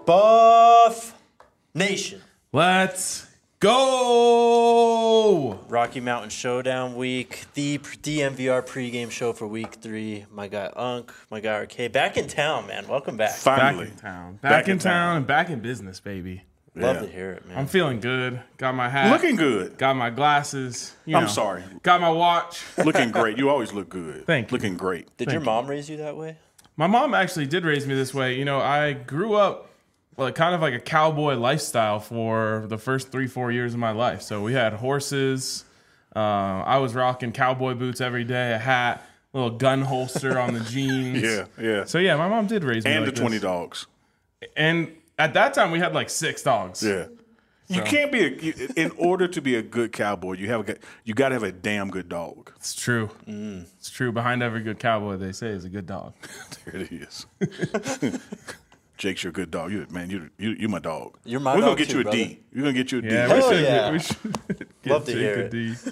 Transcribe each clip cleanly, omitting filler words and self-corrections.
Buff Nation. Let's go! Rocky Mountain Showdown week. The DMVR pregame show for week 3. My guy Unk, my guy RK. Back in town, man. Welcome back. Finally. Back in town. Back in town and back in business, baby. Love to hear it, man. I'm feeling good. Got my hat. Looking good. Got my glasses. I'm sorry. Got my watch. Looking great. You always look good. Thank you. Looking great. Did your mom raise you that way? My mom actually did raise me this way. You know, I grew up kind of like a cowboy lifestyle for the first 3-4 years of my life. So we had horses. I was rocking cowboy boots every day, a hat, a little gun holster on the jeans. Yeah. So yeah, my mom did raise me And like the 20 this. dogs. And at that time, we had like 6 dogs. Yeah. You can't be in order to be a good cowboy, you got to have a damn good dog. It's true. It's true. Behind every good cowboy, they say, is a good dog. There it is. Jake's your good dog. You my dog. You're my We're dog gonna get too, you a brother. D. We're gonna get you a D. Yeah, Hell we should, yeah. we should Love to Jake hear a it. D.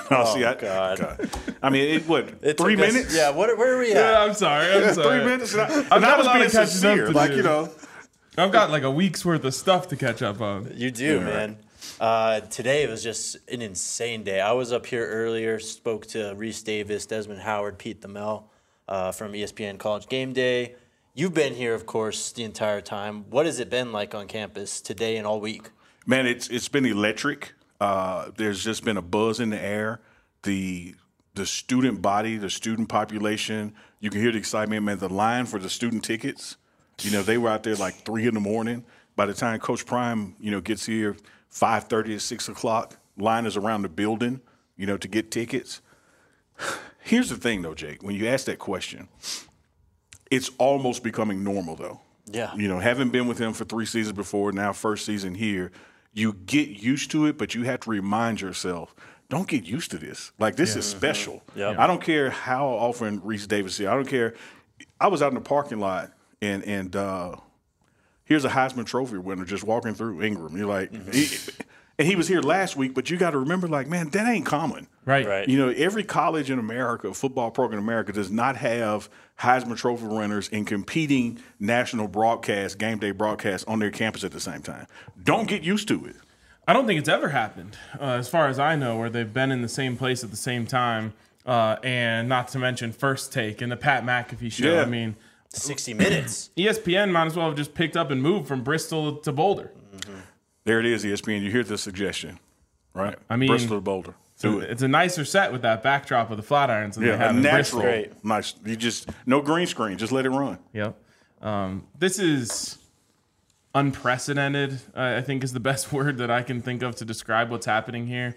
God. I mean, what? It 3 took us- minutes? Yeah, where are we at? Yeah, I'm sorry. 3 minutes. And I got was a lot being of catching up sincere. to Like, do. I've got like a week's worth of stuff to catch up on. You do, man. Today was just an insane day. I was up here earlier, spoke to Reese Davis, Desmond Howard, Pete Thamel from ESPN College Game Day. You've been here, of course, the entire time. What has it been like on campus today and all week? Man, it's been electric. There's just been a buzz in the air. The student body, the student population, you can hear the excitement. Man, the line for the student tickets, they were out there like 3 a.m. By the time Coach Prime, gets here, 5:30 at 6 o'clock, line is around the building, to get tickets. Here's the thing, though, Jake. When you ask that question, it's almost becoming normal, though. Yeah. Having been with him for 3 seasons before, now first season here, you get used to it, but you have to remind yourself, don't get used to this. Like, this is special. Yep. I don't care how often Reese Davis is. I don't care. I was out in the parking lot, and here's a Heisman Trophy winner just walking through Ingram. You're like, and he was here last week, but you got to remember, like, man, that ain't common. Right. Every college in America, football program in America, does not have Heisman Trophy winners in competing national broadcast, game day broadcasts on their campus at the same time. Don't get used to it. I don't think it's ever happened, as far as I know, where they've been in the same place at the same time. And not to mention First Take and the Pat McAfee show. Yeah. I mean, 60 minutes. ESPN might as well have just picked up and moved from Bristol to Boulder. There it is, ESPN. You hear the suggestion, right? I mean, Bristol to Boulder. Do it. It's a nicer set with that backdrop of the Flatirons than they Yeah, have a in natural, Bristol. nice. You just no green screen. Just let it run. Yep. This is unprecedented, I think is the best word that I can think of to describe what's happening here.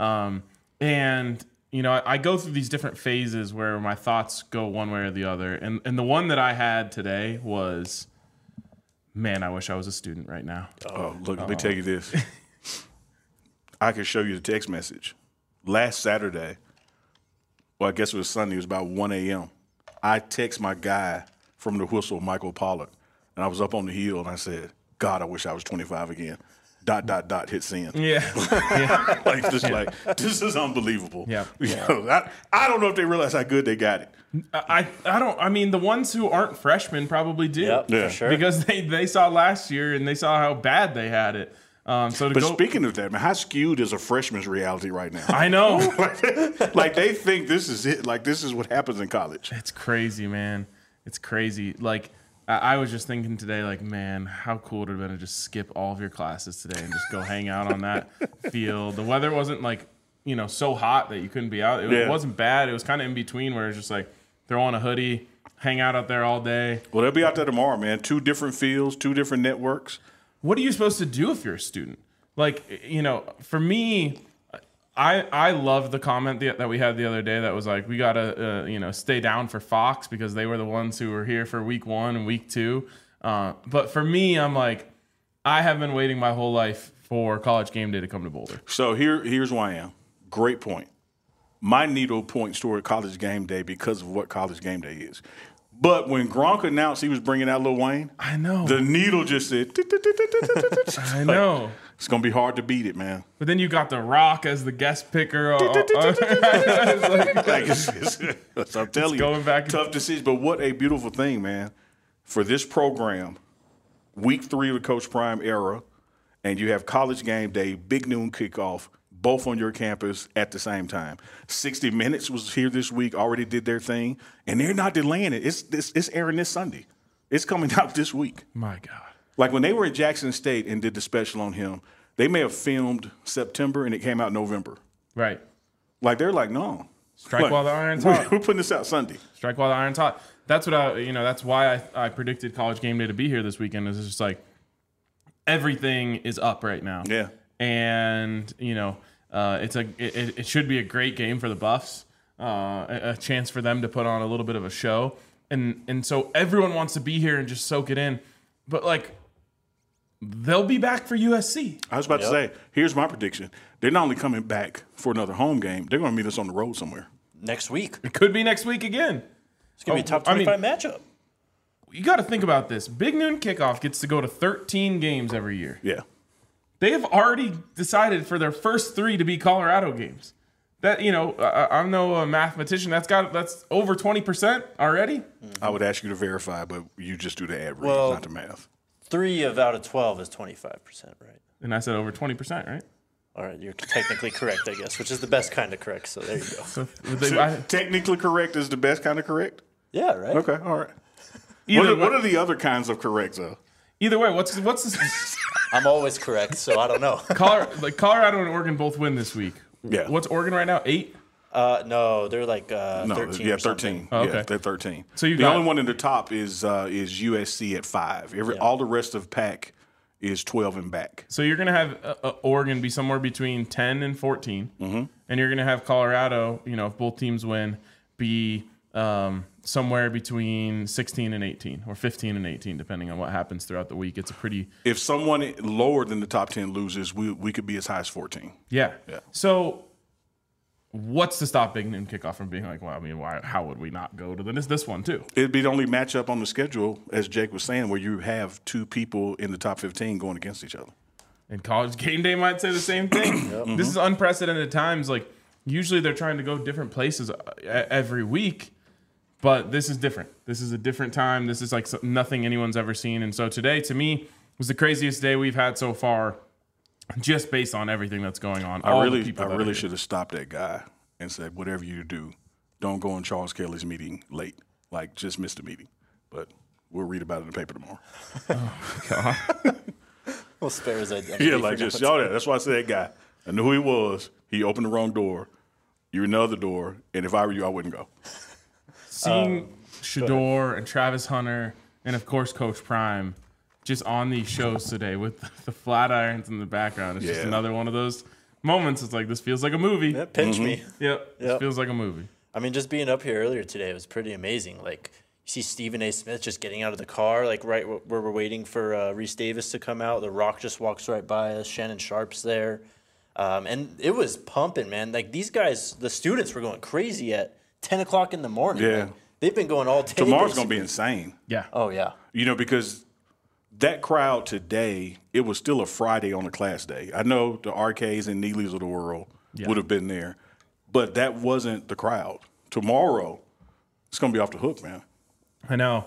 And, I go through these different phases where my thoughts go one way or the other. And the one that I had today was, man, I wish I was a student right now. Oh, look, let me tell you this. I can show you the text message. Last Saturday, well, I guess it was Sunday, it was about 1 a.m. I text my guy from the Whistle, Michael Pollard, and I was up on the hill, and I said, God, I wish I was 25 again. ... hit send. Yeah. This is unbelievable. Yeah. I don't know if they realize how good they got it. I mean, the ones who aren't freshmen probably do. Yep, Yeah. for sure. Because they saw last year and they saw how bad they had it. But Speaking of that, man, how skewed is a freshman's reality right now? I know. Like they think this is it. Like this is what happens in college. It's crazy, man. It's crazy. Like, I was just thinking today, like, man, how cool would it have been to just skip all of your classes today and just go hang out on that field. The weather wasn't, like, so hot that you couldn't be out. It wasn't bad. It was kind of in between where it's just like throw on a hoodie, hang out there all day. Well, they'll be out there tomorrow, man. 2 different fields, 2 different networks. What are you supposed to do if you're a student? Like, for me, I love the comment that we had the other day that was like, we got to, stay down for Fox because they were the ones who were here for week 1 and week 2. But for me, I'm like, I have been waiting my whole life for College Game Day to come to Boulder. So here's where I am. Great point. My needle points toward College Game Day because of what College Game Day is. But when Gronk announced he was bringing out Lil Wayne, I know. the needle just said, I know. It's going to be hard to beat it, man. But then you got The Rock as the guest picker. I'm telling you, going back. tough decision. But what a beautiful thing, man, for this program week 3 of the Coach Prime era, and you have College Game Day, big noon kickoff, both on your campus at the same time. 60 Minutes was here this week, already did their thing, and they're not delaying it. It's airing this Sunday. It's coming out this week. My God. Like when they were at Jackson State and did the special on him, they may have filmed September and it came out November. Right. Like they're like, no. Strike Like, while the iron's hot. We're putting this out Sunday. Strike while the iron's hot. That's what that's why I predicted College Game Day to be here this weekend. Is just like everything is up right now. Yeah. And it should be a great game for the Buffs. A chance for them to put on a little bit of a show. And so everyone wants to be here and just soak it in. But like they'll be back for USC. I was about to say, here's my prediction. They're not only coming back for another home game, they're going to meet us on the road somewhere. Next week. It could be next week again. It's going to be a top 25 matchup. You got to think about this. Big Noon Kickoff gets to go to 13 games every year. Yeah. They have already decided for their first 3 to be Colorado games. That I'm no mathematician. That's over 20% already. I would ask you to verify, but you just do the average, Well, not the math. 3 out of 12 is 25%, right? And I said over 20%, right? All right, you're technically correct, I guess, which is the best kind of correct. So there you go. So Technically correct is the best kind of correct? Yeah, right. Okay, all right. either What are the other kinds of corrects, though? Either way, what's this? I'm always correct, so I don't know. Colorado and Oregon both win this week. Yeah. What's Oregon right now? 8? No, they're like 13 yeah, or something. 13. Oh, okay. Yeah, they're 13. So you the got- only one in the top is USC at 5. All the rest of Pac is 12 and back. So you're going to have Oregon be somewhere between 10 and 14. Mm-hmm. And you're going to have Colorado, if both teams win, be somewhere between 16 and 18 or 15 and 18, depending on what happens throughout the week. It's a pretty... If someone lower than the top 10 loses, we could be as high as 14. Yeah. Yeah. So what's to stop Big Noon Kickoff from being like, well, I mean, how would we not go to this one too? It'd be the only matchup on the schedule, as Jake was saying, where you have 2 people in the top 15 going against each other. And College Game Day might say the same thing. This is unprecedented times. Like, usually they're trying to go different places every week, but this is different. This is a different time. This is like nothing anyone's ever seen. And so today, to me, was the craziest day we've had so far, just based on everything that's going on. I really should have stopped that guy and said, whatever you do, don't go in Charles Kelly's meeting late. Like, just miss the meeting. But we'll read about it in the paper tomorrow. Oh, God. Well, spare his identity. Yeah, like just y'all there. That's why I said that guy. I knew who he was. He opened the wrong door. You're in the other door. And if I were you, I wouldn't go. Seeing Shador and Travis Hunter and, of course, Coach Prime just on these shows today with the flat irons in the background. It's just another one of those moments. It's like, this feels like a movie. Yeah, pinch me. Yep. This feels like a movie. I mean, just being up here earlier today was pretty amazing. Like, you see Stephen A. Smith just getting out of the car, like right where we're waiting for Reese Davis to come out. The Rock just walks right by us. Shannon Sharp's there. And it was pumping, man. Like, these guys, the students were going crazy at 10 o'clock in the morning. Yeah. Like, they've been going all day. Tomorrow's going to be insane. Yeah. Oh, yeah. Because that crowd today, it was still a Friday on a class day. I know the RKs and Neelys of the world would have been there, but that wasn't the crowd. Tomorrow, it's going to be off the hook, man. I know.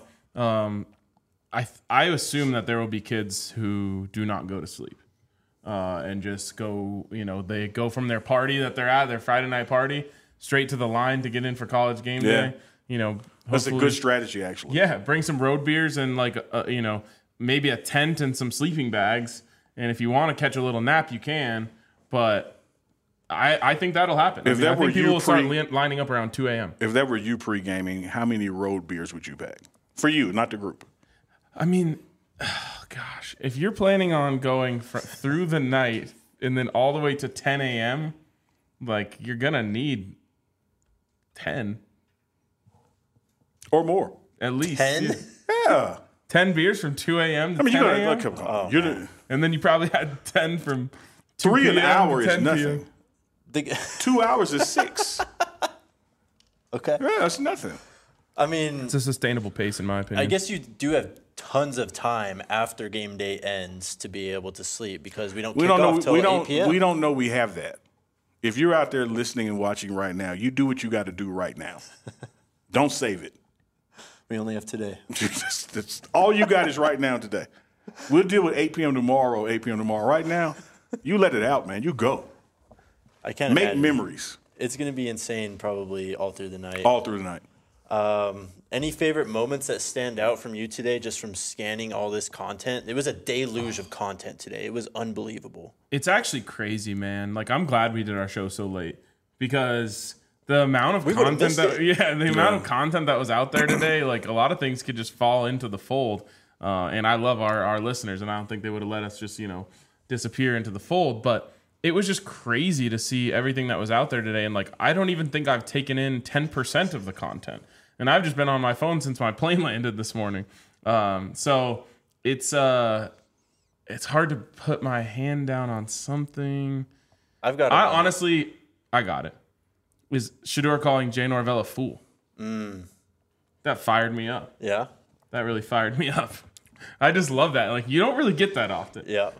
I assume that there will be kids who do not go to sleep and just go, they go from their party that they're at, their Friday night party, straight to the line to get in for College Game Day. That's a good strategy, actually. Yeah, bring some road beers and maybe a tent and some sleeping bags. And if you want to catch a little nap, you can. But I think that'll happen. I think people will start lining up around 2 a.m. If that were you pre-gaming, how many road beers would you pack? For you, not the group. I mean, gosh, if you're planning on going through the night and then all the way to 10 a.m., like, you're going to need 10. Or more. At least. 10? Yeah. 10 beers from 2 a.m. to 10 a.m.? Come on. And then you probably had 10 from 2 3 an p.m. hour to is 10 nothing. p.m. 2 hours is 6. Okay. Yeah, that's nothing. I mean, It's a sustainable pace, in my opinion. I guess you do have tons of time after game day ends to be able to sleep because we don't kick off till 8 p.m. We don't know we have that. If you're out there listening and watching right now, you do what you got to do right now. Don't save it. We only have today. That's all you got is right now today. We'll deal with 8 p.m. tomorrow, 8 p.m. tomorrow. Right now, you let it out, man. You go. I can't Make imagine. memories It's going to be insane probably all through the night. all through the night. Any favorite moments that stand out from you today just from scanning all this content? It was a deluge of content today. It was unbelievable. It's actually crazy, man. Like, I'm glad we did our show so late because the amount of would've content missed that it. the amount of content that was out there today, like a lot of things could just fall into the fold. And I love our listeners, and I don't think they would have let us just, disappear into the fold. But it was just crazy to see everything that was out there today. And like, I don't even think I've taken in 10% of the content. And I've just been on my phone since my plane landed this morning. So it's hard to put my hand down on something. I've got. I got it. Is Shedeur calling Jay Norvell a fool? That fired me up. Yeah. That really fired me up. I just love that. Like, you don't really get that often. Yeah.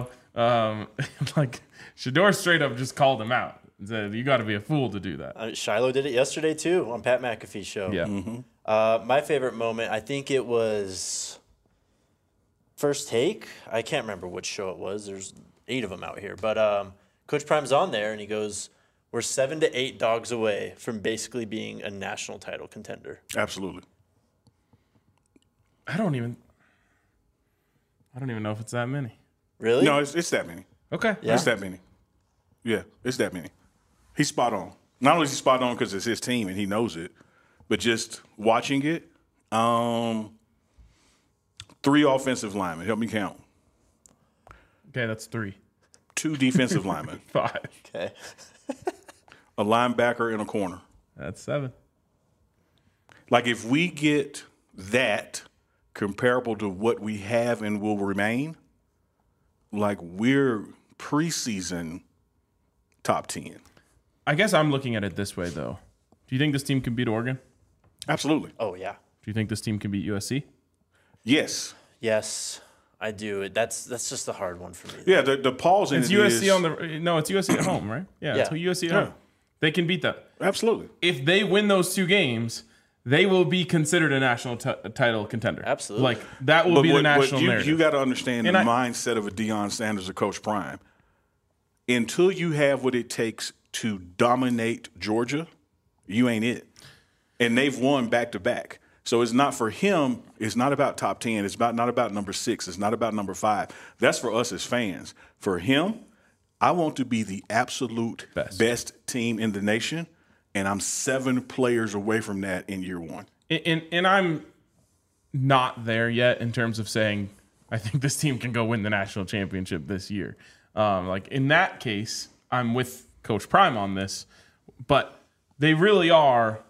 Like Shedeur straight up just called him out. Said, you got to be a fool to do that. Shiloh did it yesterday too on Pat McAfee's show. Yeah. My favorite moment, I think it was First Take. I can't remember which show it was. There's 8 of them out here, but Coach Prime's on there and he goes, "We're 7 to 8 dogs away from basically being a national title contender." Absolutely. I don't even know if it's that many. Really? No, it's that many. Okay. Yeah. It's that many. Yeah, it's that many. He's spot on. Not only is he spot on because it's his team and he knows it, but just watching it, 3 offensive linemen. Help me count. Okay, that's 3. 2 defensive linemen. 5. Okay. A linebacker and a corner. That's 7. Like, if we get that comparable to what we have and will remain, like, we're preseason top 10. I guess I'm looking at it this way, though. Do you think this team can beat Oregon? Absolutely. Oh yeah. Do you think this team can beat USC? Yes. Yes, I do. That's just a hard one for me. Yeah, the pause in It's it USC is- on the no. It's USC at home, right? Yeah, it's Yeah. USC at Yeah. home. They can beat that. Absolutely. If they win those 2 games, they will be considered a national title contender. Absolutely. Like that will be the national narrative. You got to understand And the I- mindset of a Deion Sanders or Coach Prime. Until you have what it takes to dominate Georgia, you ain't it. And they've won back to back. So it's not for him. It's not about top 10. It's not about number 6. It's not about number 5. That's for us as fans. For him, I want to be the absolute best team in the nation, and I'm 7 players away from that in year 1. And I'm not there yet in terms of saying I think this team can go win the national championship this year. Like in that case, I'm with Coach Prime on this, but they really are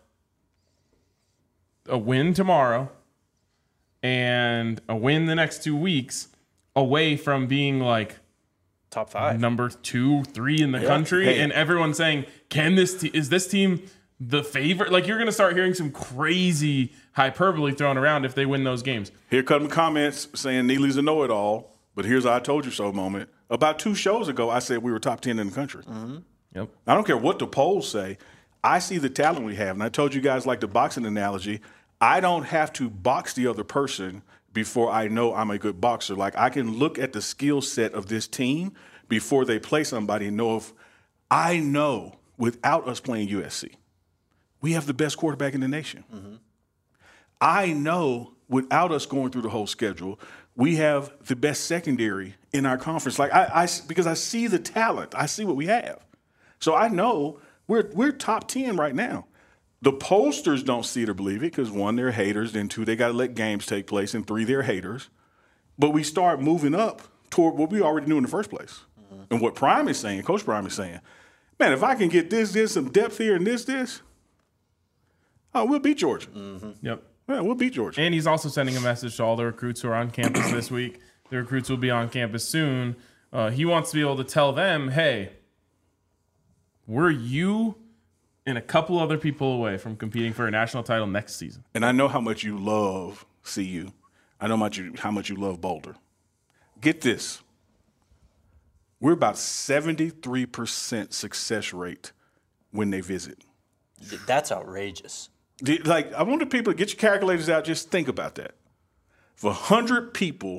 a win tomorrow and a win the next 2 weeks away from being like Top 5. number 2, 3 in the country, Hey. and everyone saying, "Can is this team the favorite?" Like, you're going to start hearing some crazy hyperbole thrown around if they win those games. Here come comments saying Neely's a know-it-all, but here's a I told you so moment. About 2 shows ago, I said we were top 10 in the country. Yep. I don't care what the polls say. I see the talent we have. And I told you guys, like the boxing analogy, I don't have to box the other person before I know I'm a good boxer. Like, I can look at the skill set of this team before they play somebody and know if I know without us playing USC, we have the best quarterback in the nation. I know without us going through the whole schedule, we have the best secondary in our conference. Like because I see the talent, I see what we have. So I know we're top 10 right now. The pollsters don't see it or believe it because 1, they're haters, then 2, they got to let games take place, and 3, they're haters. But we start moving up toward what we already knew in the first place. And what Prime is saying, Coach Prime is saying, man, if I can get this, some depth here and this, oh, we'll beat Georgia. Yep. Yeah, we'll beat Georgia. And he's also sending a message to all the recruits who are on campus this week. The recruits will be on campus soon. He wants to be able to tell them, hey, we're you and a couple other people away from competing for a national title next season. And I know how much you love CU. I know how much you love Boulder. Get this. We're about 73% success rate when they visit. That's outrageous. Like, I want the people to get your calculators out. Just think about that. If 100 people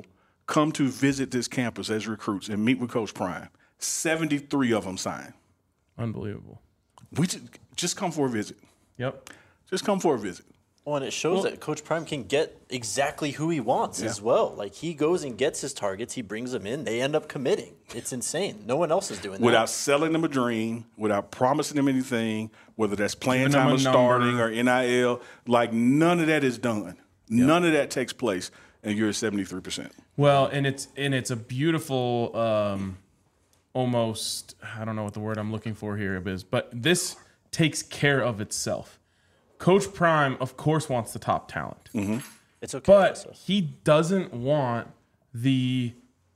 come to visit this campus as recruits and meet with Coach Prime. 73 of them signed. Unbelievable. We just come for a visit. Yep. Just come for a visit. Well, and it shows that Coach Prime can get exactly who he wants as well. Like, he goes and gets his targets, he brings them in, they end up committing. It's insane. No one else is doing that. Without selling them a dream, without promising them anything, whether that's playing Giving them time a or starting number. or NIL, like none of that is done. None of that takes place, and you're at 73%. Well, and it's a beautiful, almost, I don't know what the word I'm looking for here is, but this takes care of itself. Coach Prime, of course, wants the top talent. Mm-hmm. It's okay. But he doesn't want the,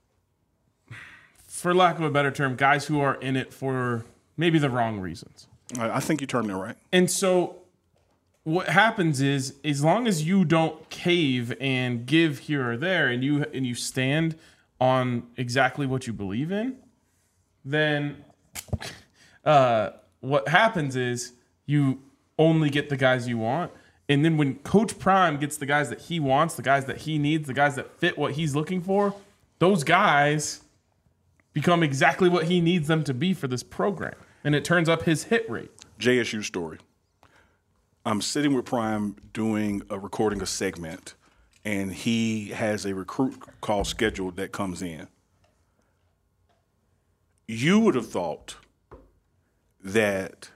for lack of a better term, guys who are in it for maybe the wrong reasons. I think you turned it right. And so what happens is, as long as you don't cave and give here or there, and you stand on exactly what you believe in, then what happens is you only get the guys you want. And then when Coach Prime gets the guys that he wants, the guys that he needs, the guys that fit what he's looking for, those guys become exactly what he needs them to be for this program. And it turns up his hit rate. JSU story. I'm sitting with Prime doing recording a segment, and he has a recruit call scheduled that comes in. You would have thought that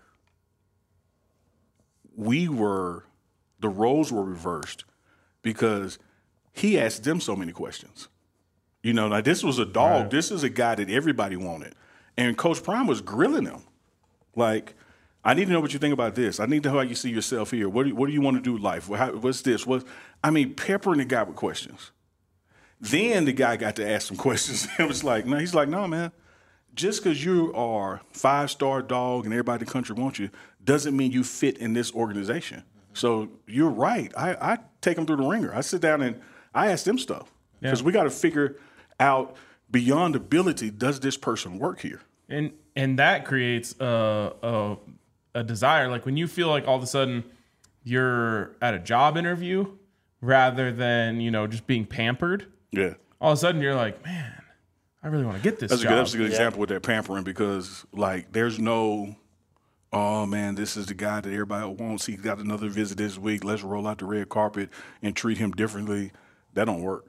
the roles were reversed because he asked them so many questions. You know, like this was a dog. Right. This is a guy that everybody wanted. And Coach Prime was grilling him. Like, I need to know what you think about this. I need to know how you see yourself here. What do you want to do with life? What's this? Peppering the guy with questions. Then the guy got to ask some questions. He's like, no, man. Just because you are 5-star dog and everybody in the country wants you doesn't mean you fit in this organization. So you're right. I take them through the ringer. I sit down and I ask them stuff because we got to figure out beyond ability, does this person work here? And that creates a desire. Like when you feel like all of a sudden you're at a job interview rather than, just being pampered. Yeah. All of a sudden you're like, man, I really want to get this job. That's a good example with that pampering because, like, there's no, oh, man, this is the guy that everybody wants. He got another visit this week. Let's roll out the red carpet and treat him differently. That don't work.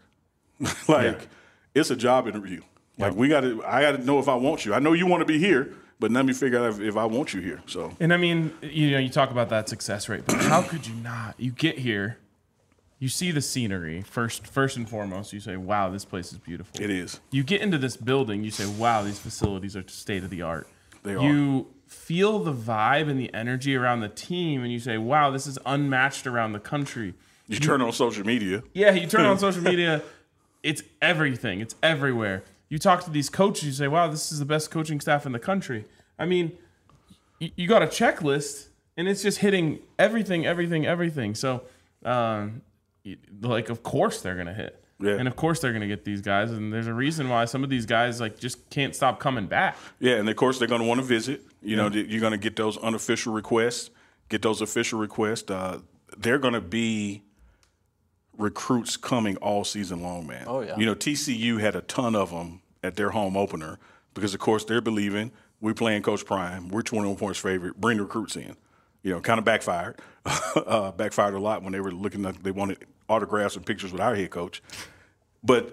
It's a job interview. Like, I got to know if I want you. I know you want to be here, but let me figure out if I want you here. So, and I mean, you talk about that success rate, but how could you not? You get here. You see the scenery first and foremost. You say, "Wow, this place is beautiful." It is. You get into this building. You say, "Wow, these facilities are state of the art." They are. You feel the vibe and the energy around the team, and you say, "Wow, this is unmatched around the country." You turn on social media. Yeah, you turn on social media. It's everything. It's everywhere. You talk to these coaches. You say, "Wow, this is the best coaching staff in the country." I mean, you got a checklist, and it's just hitting everything. So. Like, of course they're going to hit. Yeah. And of course they're going to get these guys. And there's a reason why some of these guys, like, just can't stop coming back. Yeah, and of course they're going to want to visit. You're going to get those unofficial requests, get those official requests. They're going to be recruits coming all season long, man. Oh, yeah. TCU had a ton of them at their home opener because, of course, they're believing we're playing Coach Prime. We're 21 points favorite. Bring the recruits in. Kind of backfired. Backfired a lot when they were looking at, they wanted autographs and pictures with our head coach. But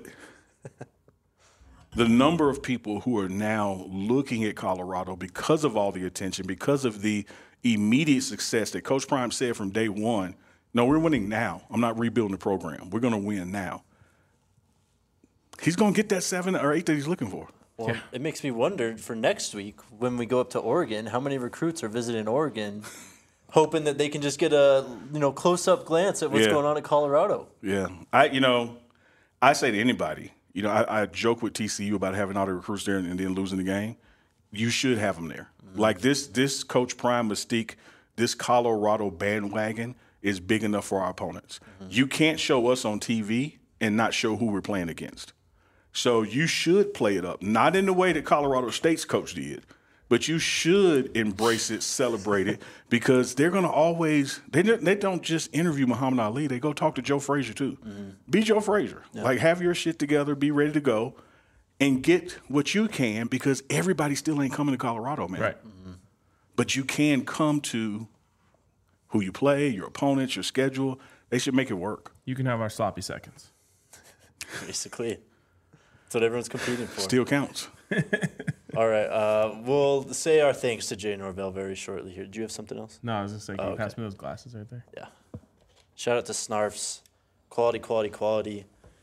the number of people who are now looking at Colorado because of all the attention, because of the immediate success that Coach Prime said from day one, no, we're winning now. I'm not rebuilding the program. We're going to win now. He's going to get that 7 or 8 that he's looking for. Well, It makes me wonder for next week when we go up to Oregon, how many recruits are visiting Oregon hoping that they can just get a close-up glance at what's going on at Colorado. Yeah. I say to anybody, I joke with TCU about having all the recruits there and then losing the game. You should have them there. Mm-hmm. Like this Coach Prime mystique, this Colorado bandwagon is big enough for our opponents. Mm-hmm. You can't show us on TV and not show who we're playing against. So you should play it up, not in the way that Colorado State's coach did. but you should embrace it, celebrate it, because they're going to always, they don't just interview Muhammad Ali. They go talk to Joe Frazier, too. Be Joe Frazier. Yeah. Like, have your shit together, be ready to go, and get what you can, because everybody still ain't coming to Colorado, man. Right. But you can come to who you play, your opponents, your schedule. They should make it work. You can have our sloppy seconds. Basically. That's what everyone's competing for. Still counts. All right. We'll say our thanks to Jay Norvell very shortly here. Do you have something else? No, I was just saying, can you pass me those glasses right there? Yeah. Shout out to Snarfs. Quality, quality, quality.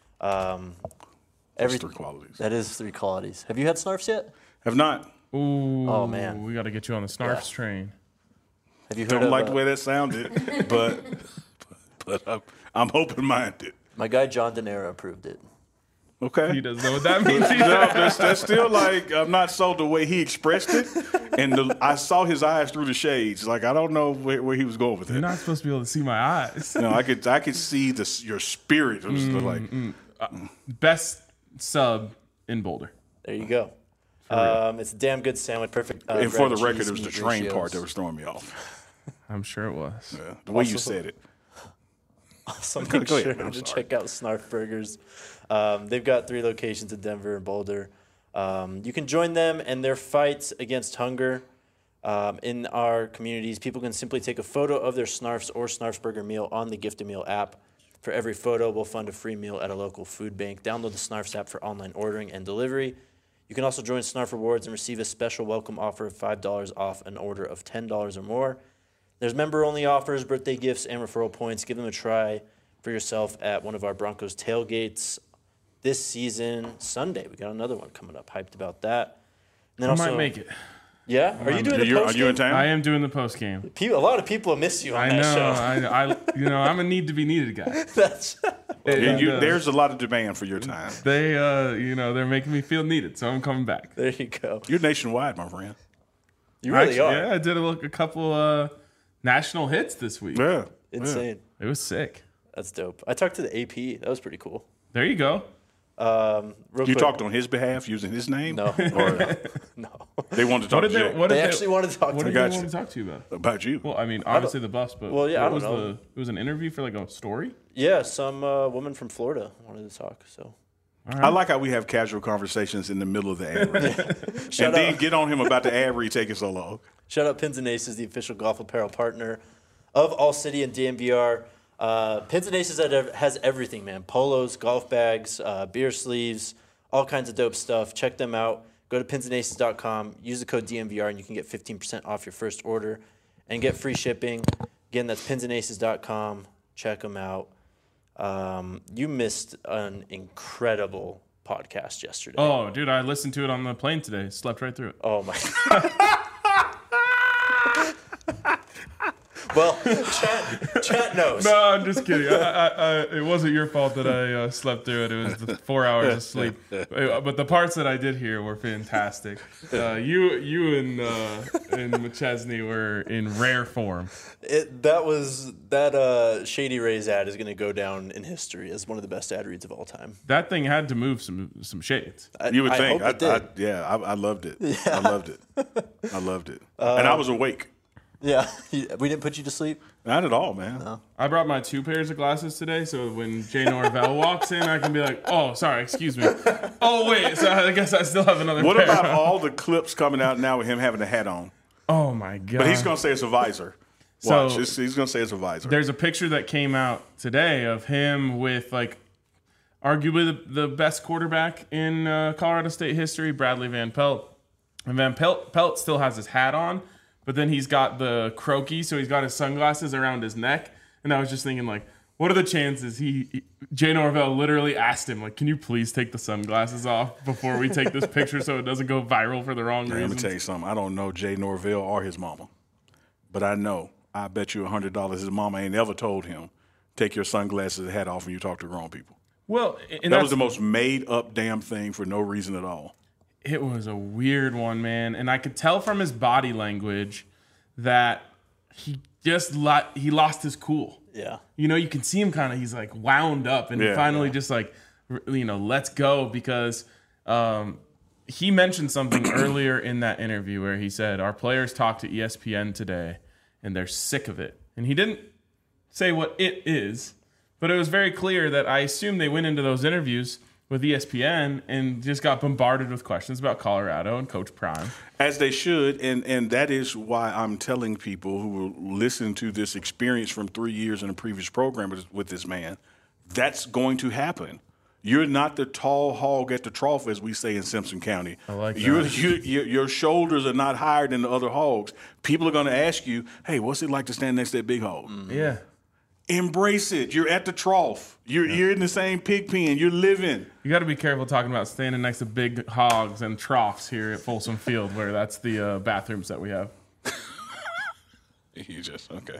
That's 3 qualities. That is 3 qualities. Have you had Snarfs yet? Have not. Ooh. Oh, man. We got to get you on the Snarfs train. Have you heard Don't of, like the way that sounded, but I'm open-minded. My guy John Denera approved it. Okay. He doesn't know what that means. No, that's still like, I'm not sold the way he expressed it. And I saw his eyes through the shades. Like, I don't know where he was going with it. You're not supposed to be able to see my eyes. No, I could see your spirit. It was Best sub in Boulder. There you go. It's a damn good sandwich. Perfect. and for the record, cheese, it was the meat train ratios. part that was throwing me off. I'm sure it was. Yeah, the way you said it. So make Go sure ahead, I'm to sorry. check out Snarf Burgers. They've got 3 locations in Denver and Boulder. You can join them and their fights against hunger in our communities. People can simply take a photo of their Snarfs or Snarfs Burger meal on the Gift a Meal app. For every photo, we'll fund a free meal at a local food bank. Download the Snarfs app for online ordering and delivery. You can also join Snarf Rewards and receive a special welcome offer of $5 off an order of $10 or more. There's member-only offers, birthday gifts, and referral points. Give them a try for yourself at one of our Broncos tailgates this season. Sunday, we got another one coming up. Hyped about that. And then I might make it. Yeah? Are you doing the post Are you in town? I am doing the post game. A lot of people miss you on I that know. show. I'm a need to be needed guy. That's There's a lot of demand for your time. They're making me feel needed, so I'm coming back. there you go. You're nationwide, my friend. You really are. Yeah, I did a couple national hits this week. Yeah. Insane. It was sick. That's dope. I talked to the AP. That was pretty cool. There you go. Real You quick. talked on his behalf using his name? No. Or No. they wanted to talk to Jay They actually wanted to talk to What me. did they got want you. to talk to you about? about you. Well, I mean, obviously the Buffs, but Well, yeah, I what don't was know. it was an interview for like a story? Yeah, some woman from Florida wanted to talk. So I like how we have casual conversations in the middle of the ad read. Shut And then up. get on him about the ad read taking so long. shout out Pins and Aces, the official golf apparel partner of All City and DMVR. Pins and Aces has everything, man. Polos, golf bags, beer sleeves, all kinds of dope stuff. Check them out. Go to pinsandaces.com. Use the code DMVR, and you can get 15% off your first order and get free shipping. Again, that's pinsandaces.com. Check them out. You missed an incredible podcast yesterday. Oh, dude, I listened to it on the plane today. Slept right through it. Oh my God. Well, chat knows. No, I'm just kidding. It wasn't your fault that I slept through it. It was the 4 hours of sleep. But the parts that I did hear were fantastic. You and McChesney were in rare form. That Shady Rays ad is going to go down in history as one of the best ad reads of all time. That thing had to move some shades. You would I think. hope it did. I loved it. I loved it. I loved it. And I was awake. Yeah, we didn't put you to sleep. Not at all, man. No. I brought my 2 pairs of glasses today, so when Jay Norvell walks in, I can be like, "Oh, sorry, excuse me. Oh, wait, so I guess I still have another What pair." about all the clips coming out now with him having a hat on? Oh my god! But he's going to say it's a visor. So- Watch. He's going to say it's a visor. There's a picture that came out today of him with like arguably the best quarterback in Colorado State history, Bradley Van Pelt. And Van Pelt still has his hat on, but then he's got the croaky, so he's got his sunglasses around his neck. And I was just thinking, like, what are the chances Jay Norvell literally asked him, like, can you please take the sunglasses off before we take this picture so it doesn't go viral for the wrong Let me reasons? tell you something. I don't know Jay Norvell or his mama. But I bet you $100 his mama ain't ever told him, take your sunglasses and hat off when you talk to grown people. Well, and That was the most made up damn thing for no reason at all. It was a weird one, man. And I could tell from his body language that he lost his cool. Yeah. You know, you can see him he's like wound up and he finally just like, let's go because he mentioned something earlier in that interview where he said, our players talked to ESPN today and they're sick of it. And he didn't say what it is, but it was very clear that I assume they went into those interviews with ESPN and just got bombarded with questions about Colorado and Coach Prime. As they should, and that is why I'm telling people who will listen to this experience from 3 years in a previous program with this man, that's going to happen. You're not the tall hog at the trough, as we say in Simpson County. I like that. Your shoulders are not higher than the other hogs. People are going to ask you, hey, what's it like to stand next to that big hog? Yeah. Embrace it. You're at the trough. You're in the same pig pen. You're living. You got to be careful talking about standing next to big hogs and troughs here at Folsom Field, where that's the bathrooms that we have. You just, okay.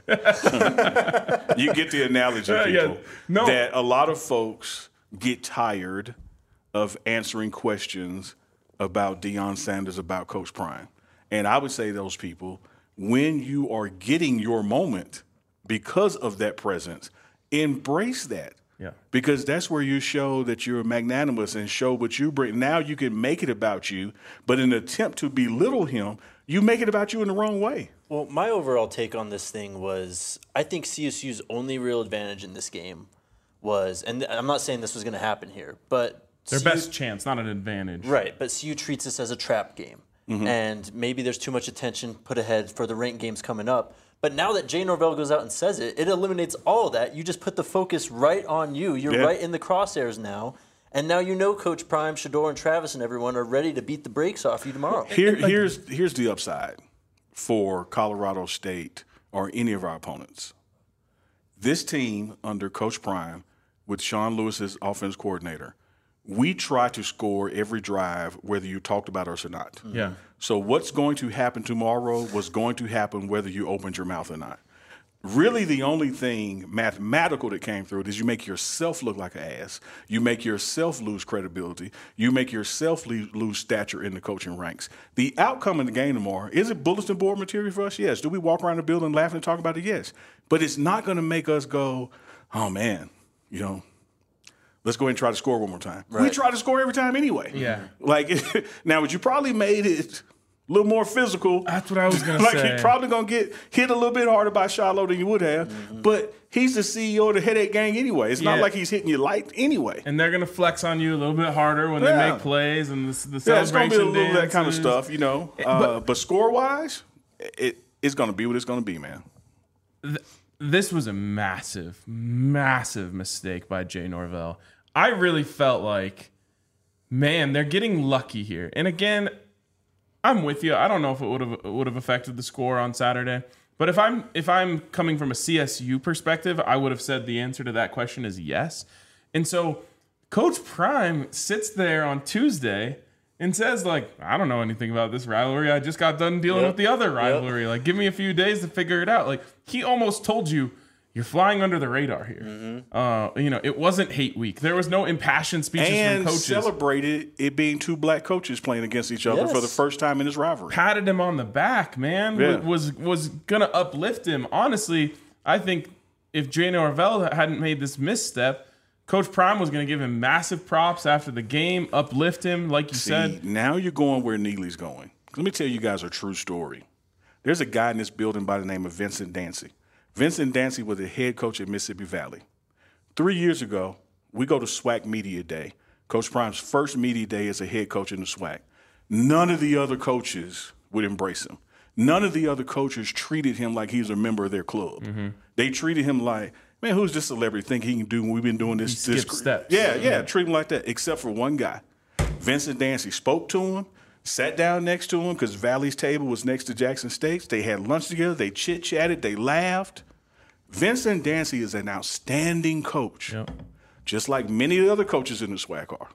You get the analogy, people. Yeah. No. That a lot of folks get tired of answering questions about Deion Sanders, about Coach Prime. And I would say to those people, when you are getting your moment because of that presence, embrace that. Yeah. Because that's where you show that you're magnanimous and show what you bring. Now you can make it about you, but in an attempt to belittle him, you make it about you in the wrong way. Well, my overall take on this thing was I think CSU's only real advantage in this game was, and I'm not saying this was going to happen here, but Their best chance, not an advantage. Right, but CU treats this as a trap game. And maybe there's too much attention put ahead for the ranked games coming up. But now that Jay Norvell goes out and says it, it eliminates all of that. You just put the focus right on you. You're right in the crosshairs now. And now you know Coach Prime, Shedeur, and Travis and everyone are ready to beat the brakes off you tomorrow. Here's the upside for Colorado State or any of our opponents. This team under Coach Prime with Sean Lewis as offense coordinator, we try to score every drive whether you talked about us or not. Yeah. So what's going to happen tomorrow was going to happen whether you opened your mouth or not. Really, the only thing mathematical that came through it is you make yourself look like an ass. You make yourself lose credibility. You make yourself lose stature in the coaching ranks. The outcome in the game tomorrow, is it bulletin board material for us? Yes. Do we walk around the building laughing and talk about it? Yes. But it's not going to make us go, oh, man, let's go ahead and try to score one more time. Right. We try to score every time anyway. Yeah. Like, now, would you probably made it a little more physical. That's what I was going to like say. You're probably going to get hit a little bit harder by Shiloh than you would have. But he's the CEO of the Headache Gang anyway. It's not like he's hitting you light anyway. And they're going to flex on you a little bit harder when they make plays and the celebration it's going to be a little dances. that kind of stuff, But score-wise, it's going to be what it's going to be, man. This was a massive, massive mistake by Jay Norvell. I really felt like, man, they're getting lucky here. And again, I'm with you. I don't know if it would have affected the score on Saturday. But if I'm coming from a CSU perspective, I would have said the answer to that question is yes. And so Coach Prime sits there on Tuesday and says, like, I don't know anything about this rivalry. I just got done dealing with the other rivalry. Like, give me a few days to figure it out. Like, he almost told you, you're flying under the radar here. It wasn't hate week. There was no impassioned speeches from coaches. And celebrated it being two black coaches playing against each other for the first time in this rivalry. Patted him on the back, man. Yeah. Was going to uplift him. Honestly, I think if Jay Norvell hadn't made this misstep, Coach Prime was going to give him massive props after the game, uplift him, like you said. Now you're going where Neely's going. Let me tell you guys a true story. There's a guy in this building by the name of Vincent Dancy. Vincent Dancy was the head coach at Mississippi Valley. 3 years ago, we go to SWAC Media Day. Coach Prime's first media day as a head coach in the SWAC. None of the other coaches would embrace him. None of the other coaches treated him like he was a member of their club. They treated him like, man, who's this celebrity think he can do when we've been doing this? He skipped steps. Yeah, treat him like that, except for one guy. Vincent Dancy spoke to him, sat down next to him because Valley's table was next to Jackson State's. They had lunch together. They chit-chatted. They laughed. Vincent Dancy is an outstanding coach, just like many of the other coaches in the SWAC are.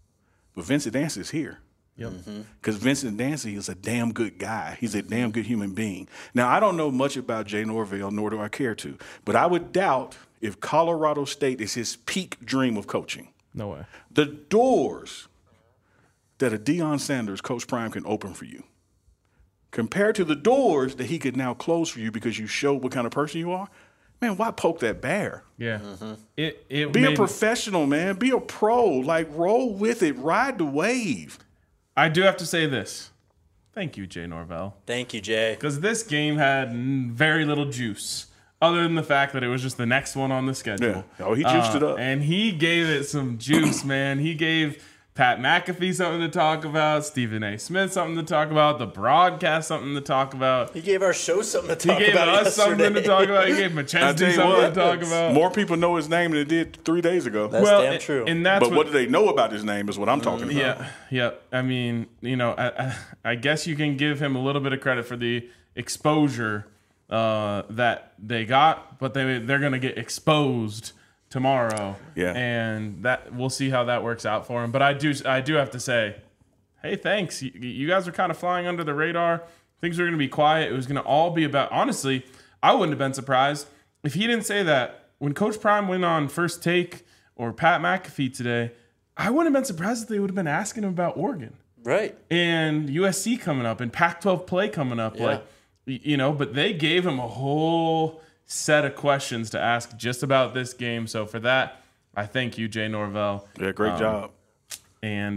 But Vincent Dancy is here. Because Vincent Dancy is a damn good guy. He's a damn good human being. Now, I don't know much about Jay Norvell, nor do I care to, but I would doubt if Colorado State is his peak dream of coaching. No way. The doors that a Deion Sanders, Coach Prime, can open for you, compared to the doors that he could now close for you because you showed what kind of person you are, man, why poke that bear? Yeah. Be a professional, man. Be a pro. Like, roll with it. Ride the wave. I do have to say this. Thank you, Jay Norvell. Thank you, Jay. Because this game had very little juice, other than the fact that it was just the next one on the schedule. Yeah. Oh, he juiced it up. And he gave it some juice, man. He gave Pat McAfee something to talk about, Stephen A. Smith something to talk about, the broadcast something to talk about. He gave our show something to talk about. He gave us yesterday. something to talk about. He gave McChesney something to talk about. More people know his name than they did 3 days ago. That's damn true. And that's But what do they know about his name is what I'm talking about. Yeah. I mean, I guess you can give him a little bit of credit for the exposure that they got, but they're going to get exposed tomorrow. Yeah. And that we'll see how that works out for him. But I do have to say, hey, thanks. You guys are kind of flying under the radar. Things were going to be quiet. It was going to all be about, honestly, I wouldn't have been surprised if he didn't say that. When Coach Prime went on First Take or Pat McAfee today, I wouldn't have been surprised if they would have been asking him about Oregon. Right. And USC coming up and Pac-12 play coming up. Yeah. But they gave him a whole set of questions to ask just about this game. So for that, I thank you, Jay Norvell. Yeah, great job. And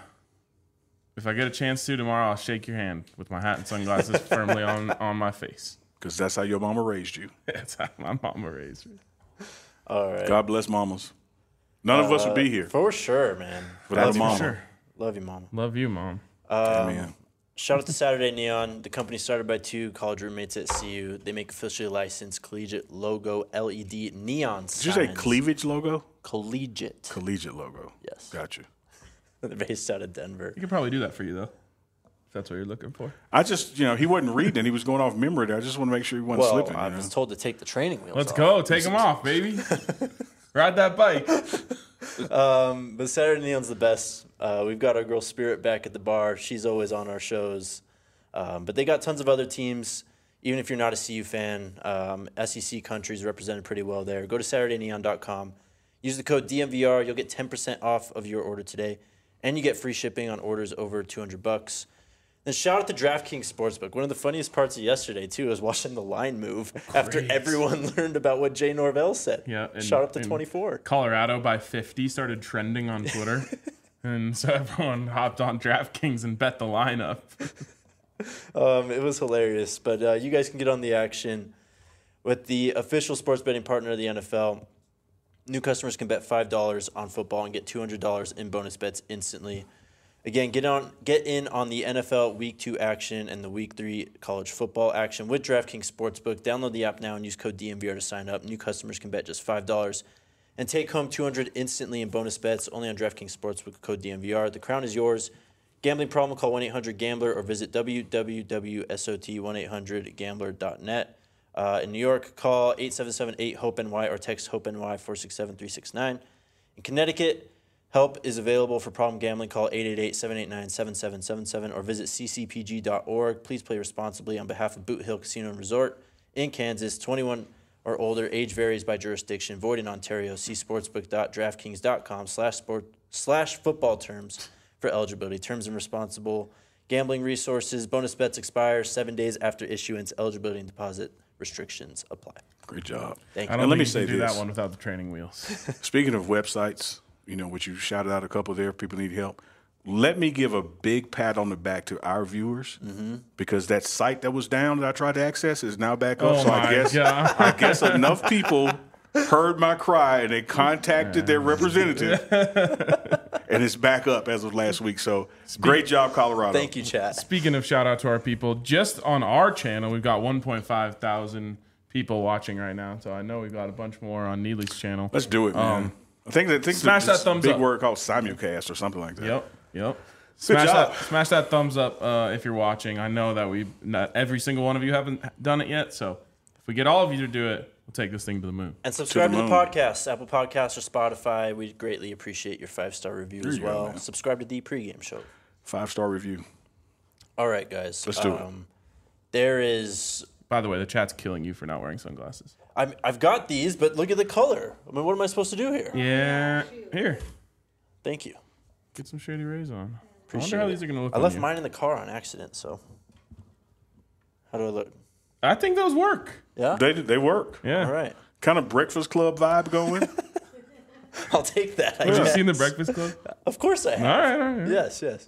if I get a chance to tomorrow, I'll shake your hand with my hat and sunglasses firmly on my face. Because that's how your mama raised you. That's how my mama raised me. All right. God bless mamas. None of us would be here For sure, man. without a For mama. sure. Love you, Mama. Love you, Mom. Amen. Shout out to Saturday Neon, the company started by 2 college roommates at CU. They make officially licensed collegiate logo LED neon signs. Did you say cleavage logo? Collegiate. Collegiate logo. Yes. Gotcha. They're based out of Denver. You could probably do that for you, though, if that's what you're looking for. I just, he wasn't reading. He was going off memory there. I just want to make sure he wasn't Well, slipping. I was told to take the training wheels Let's off. go. Take them off, baby. Ride that bike. But Saturday Neon's the best. We've got our girl Spirit back at the bar. She's always on our shows. But they got tons of other teams. Even if you're not a CU fan, SEC countries represented pretty well there. Go to SaturdayNeon.com. Use the code DMVR. You'll get 10% off of your order today. And you get free shipping on orders over $200. Then shout out to DraftKings Sportsbook. One of the funniest parts of yesterday, too, was watching the line move after everyone learned about what Jay Norvell said. Yeah, Shot up to 24. Colorado by 50 started trending on Twitter. And so everyone hopped on DraftKings and bet the lineup. It was hilarious. But you guys can get on the action with the official sports betting partner of the NFL. New customers can bet $5 on football and get $200 in bonus bets instantly. Again, get in on the NFL Week 2 action and the Week 3 college football action with DraftKings Sportsbook. Download the app now and use code DMVR to sign up. New customers can bet just $5 and take home $200 instantly in bonus bets only on DraftKings Sportsbook, code DMVR. The crown is yours. Gambling problem, call 1-800-GAMBLER or visit www.sot1800gambler.net. In New York, call 877-8-HOPE-NY or text HOPE-NY 467-369. In Connecticut, help is available for problem gambling. Call 888-789-7777 or visit ccpg.org. Please play responsibly on behalf of Boot Hill Casino and Resort in Kansas. 21 or older. Age varies by jurisdiction. Void in Ontario. See sportsbook.draftkings.com/football terms for eligibility. Terms and responsible gambling resources. Bonus bets expire 7 days after issuance. Eligibility and deposit restrictions apply. Great job. Thank you. I don't And let think me you say can do this. that one without the training wheels. Speaking of websites, which you shouted out a couple there, people need help. Let me give a big pat on the back to our viewers because that site that was down that I tried to access is now back up. Oh So my God. I guess enough people heard my cry and they contacted their representative, and it's back up as of last week. So great job, Colorado. Thank you, chat. Speaking of shout out to our people, just on our channel, we've got 1.5 thousand people watching right now. So I know we've got a bunch more on Neely's channel. Let's do it, man. I think smash that thumbs big up. word called simulcast or something like that. Yep. Good job. Smash that thumbs up if you're watching. I know that not every single one of you haven't done it yet. So if we get all of you to do it, we'll take this thing to the moon. And subscribe to the moon. podcast, Apple Podcasts or Spotify. We'd greatly appreciate your 5-star review as you go, well. man. Subscribe to the pregame show. 5-star review. All right, guys. Let's do it. There is. By the way, the chat's killing you for not wearing sunglasses. I've got these, but look at the color. I mean, what am I supposed to do here? Yeah. Here. Thank you. Get some Shady Rays on. Appreciate I wonder how it. these are going to look I on left you. mine in the car on accident, so. How do I look? I think those work. Yeah? They work. Yeah. All right. Kind of Breakfast Club vibe going. I'll take that. I Have you guess. seen The Breakfast Club? Of course I have. All right. Yes.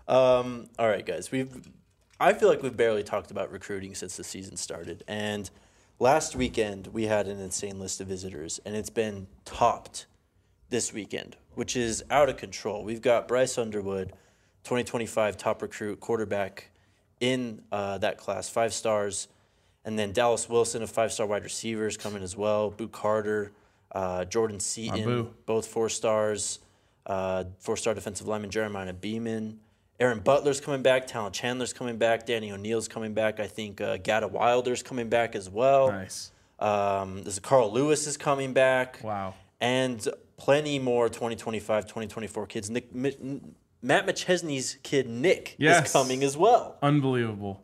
All right, guys. I feel like we've barely talked about recruiting since the season started. And last weekend, we had an insane list of visitors, and it's been topped this weekend, which is out of control. We've got Bryce Underwood, 2025 top recruit, quarterback in that class, 5 stars. And then Dallas Wilson, a 5-star wide receiver, is coming as well. Boo Carter, Jordan Seaton, both 4 stars. 4-star defensive lineman Jeremiah Beeman. Aaron Butler's coming back. Talon Chandler's coming back. Danny O'Neal's coming back. I think Gata Wilder's coming back as well. Nice. There's Carl Lewis is coming back. Wow. And plenty more 2025, 2024 kids. Matt McChesney's kid, Nick, is coming as well. Unbelievable.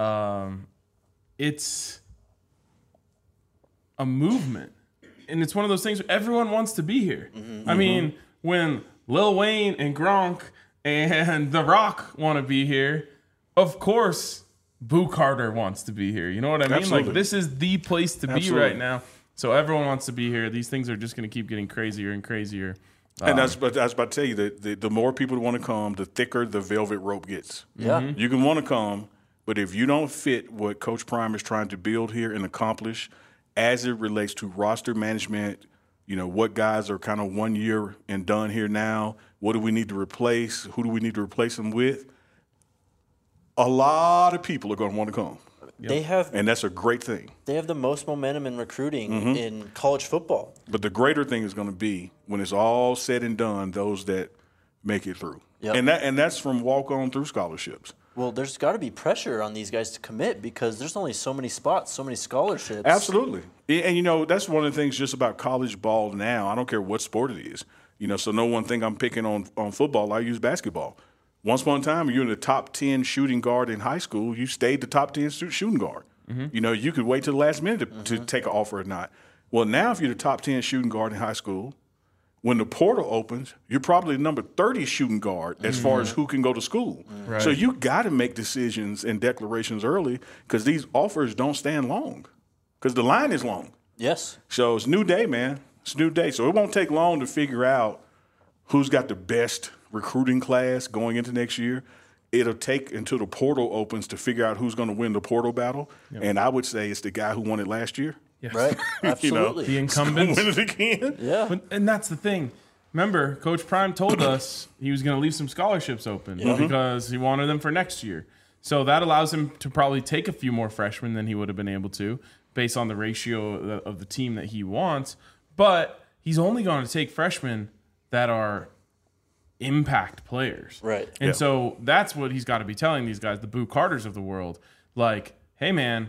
It's a movement. And it's one of those things where everyone wants to be here. Mm-hmm. I mean, when Lil Wayne and Gronk and The Rock want to be here, of course, Boo Carter wants to be here. You know what I mean? Absolutely. Like, this is the place to be right now. So everyone wants to be here. These things are just going to keep getting crazier and crazier. And I was about to tell you that the more people want to come, the thicker the velvet rope gets. Yeah. Mm-hmm. You can want to come, but if you don't fit what Coach Prime is trying to build here and accomplish as it relates to roster management, you know, what guys are kind of 1 year and done here now, what do we need to replace, who do we need to replace them with, a lot of people are going to want to come. And that's a great thing. They have the most momentum in recruiting in college football. But the greater thing is going to be when it's all said and done, those that make it through. Yep. And that's from walk-on through scholarships. Well, there's got to be pressure on these guys to commit because there's only so many spots, so many scholarships. Absolutely. And, you know, that's one of the things just about college ball now. I don't care what sport it is. You know, so no one think I'm picking on football. I use basketball. Once upon a time, you're in the top 10 shooting guard in high school. You stayed the top 10 shooting guard. Mm-hmm. You know, you could wait till the last minute to take an offer or not. Well, now if you're the top 10 shooting guard in high school, when the portal opens, you're probably the number 30 shooting guard as far as who can go to school. Right. So you got to make decisions and declarations early because these offers don't stand long because the line is long. Yes. So it's new day, man. It's new day. So it won't take long to figure out who's got the best recruiting class going into next year. It'll take until the portal opens to figure out who's going to win the portal battle. Yep. And I would say it's the guy who won it last year. Yes. Right, absolutely. The incumbents. Win it again. Yeah. And that's the thing. Remember, Coach Prime told us he was going to leave some scholarships open because he wanted them for next year. So that allows him to probably take a few more freshmen than he would have been able to based on the ratio of the team that he wants. But he's only going to take freshmen that are impact players. Right. And so that's what he's got to be telling these guys, the Boo Carters of the world. Like, hey, man,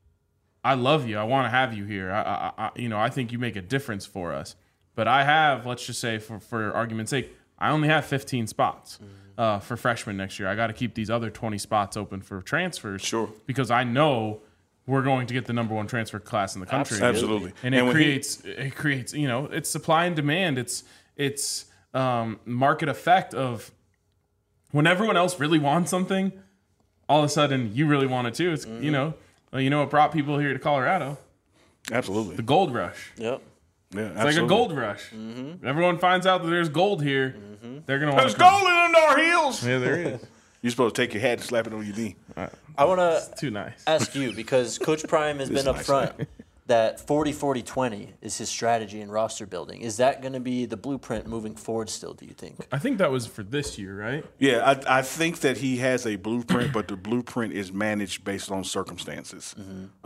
I love you. I want to have you here. I think you make a difference for us. But I have, let's just say, for argument's sake, I only have 15 spots for freshmen next year. I got to keep these other 20 spots open for transfers. Sure. Because I know we're going to get the number 1 transfer class in the country. Absolutely. And it creates, you know, it's supply and demand. It's market effect of when everyone else really wants something, all of a sudden you really want it too. It's you know what brought people here to Colorado? Absolutely. The gold rush. Yep. Yeah, it's like a gold rush. Mm-hmm. Everyone finds out that there's gold here. Mm-hmm. They're gonna want. There's gold in our heels. Yeah, there is. You're supposed to take your hat and slap it on your knee. I want to too nice. ask you because Coach Prime has been upfront that 40-40-20 is his strategy in roster building. Is that going to be the blueprint moving forward still, do you think? I think that was for this year, right? Yeah, I think that he has a blueprint, but the blueprint is managed based on circumstances.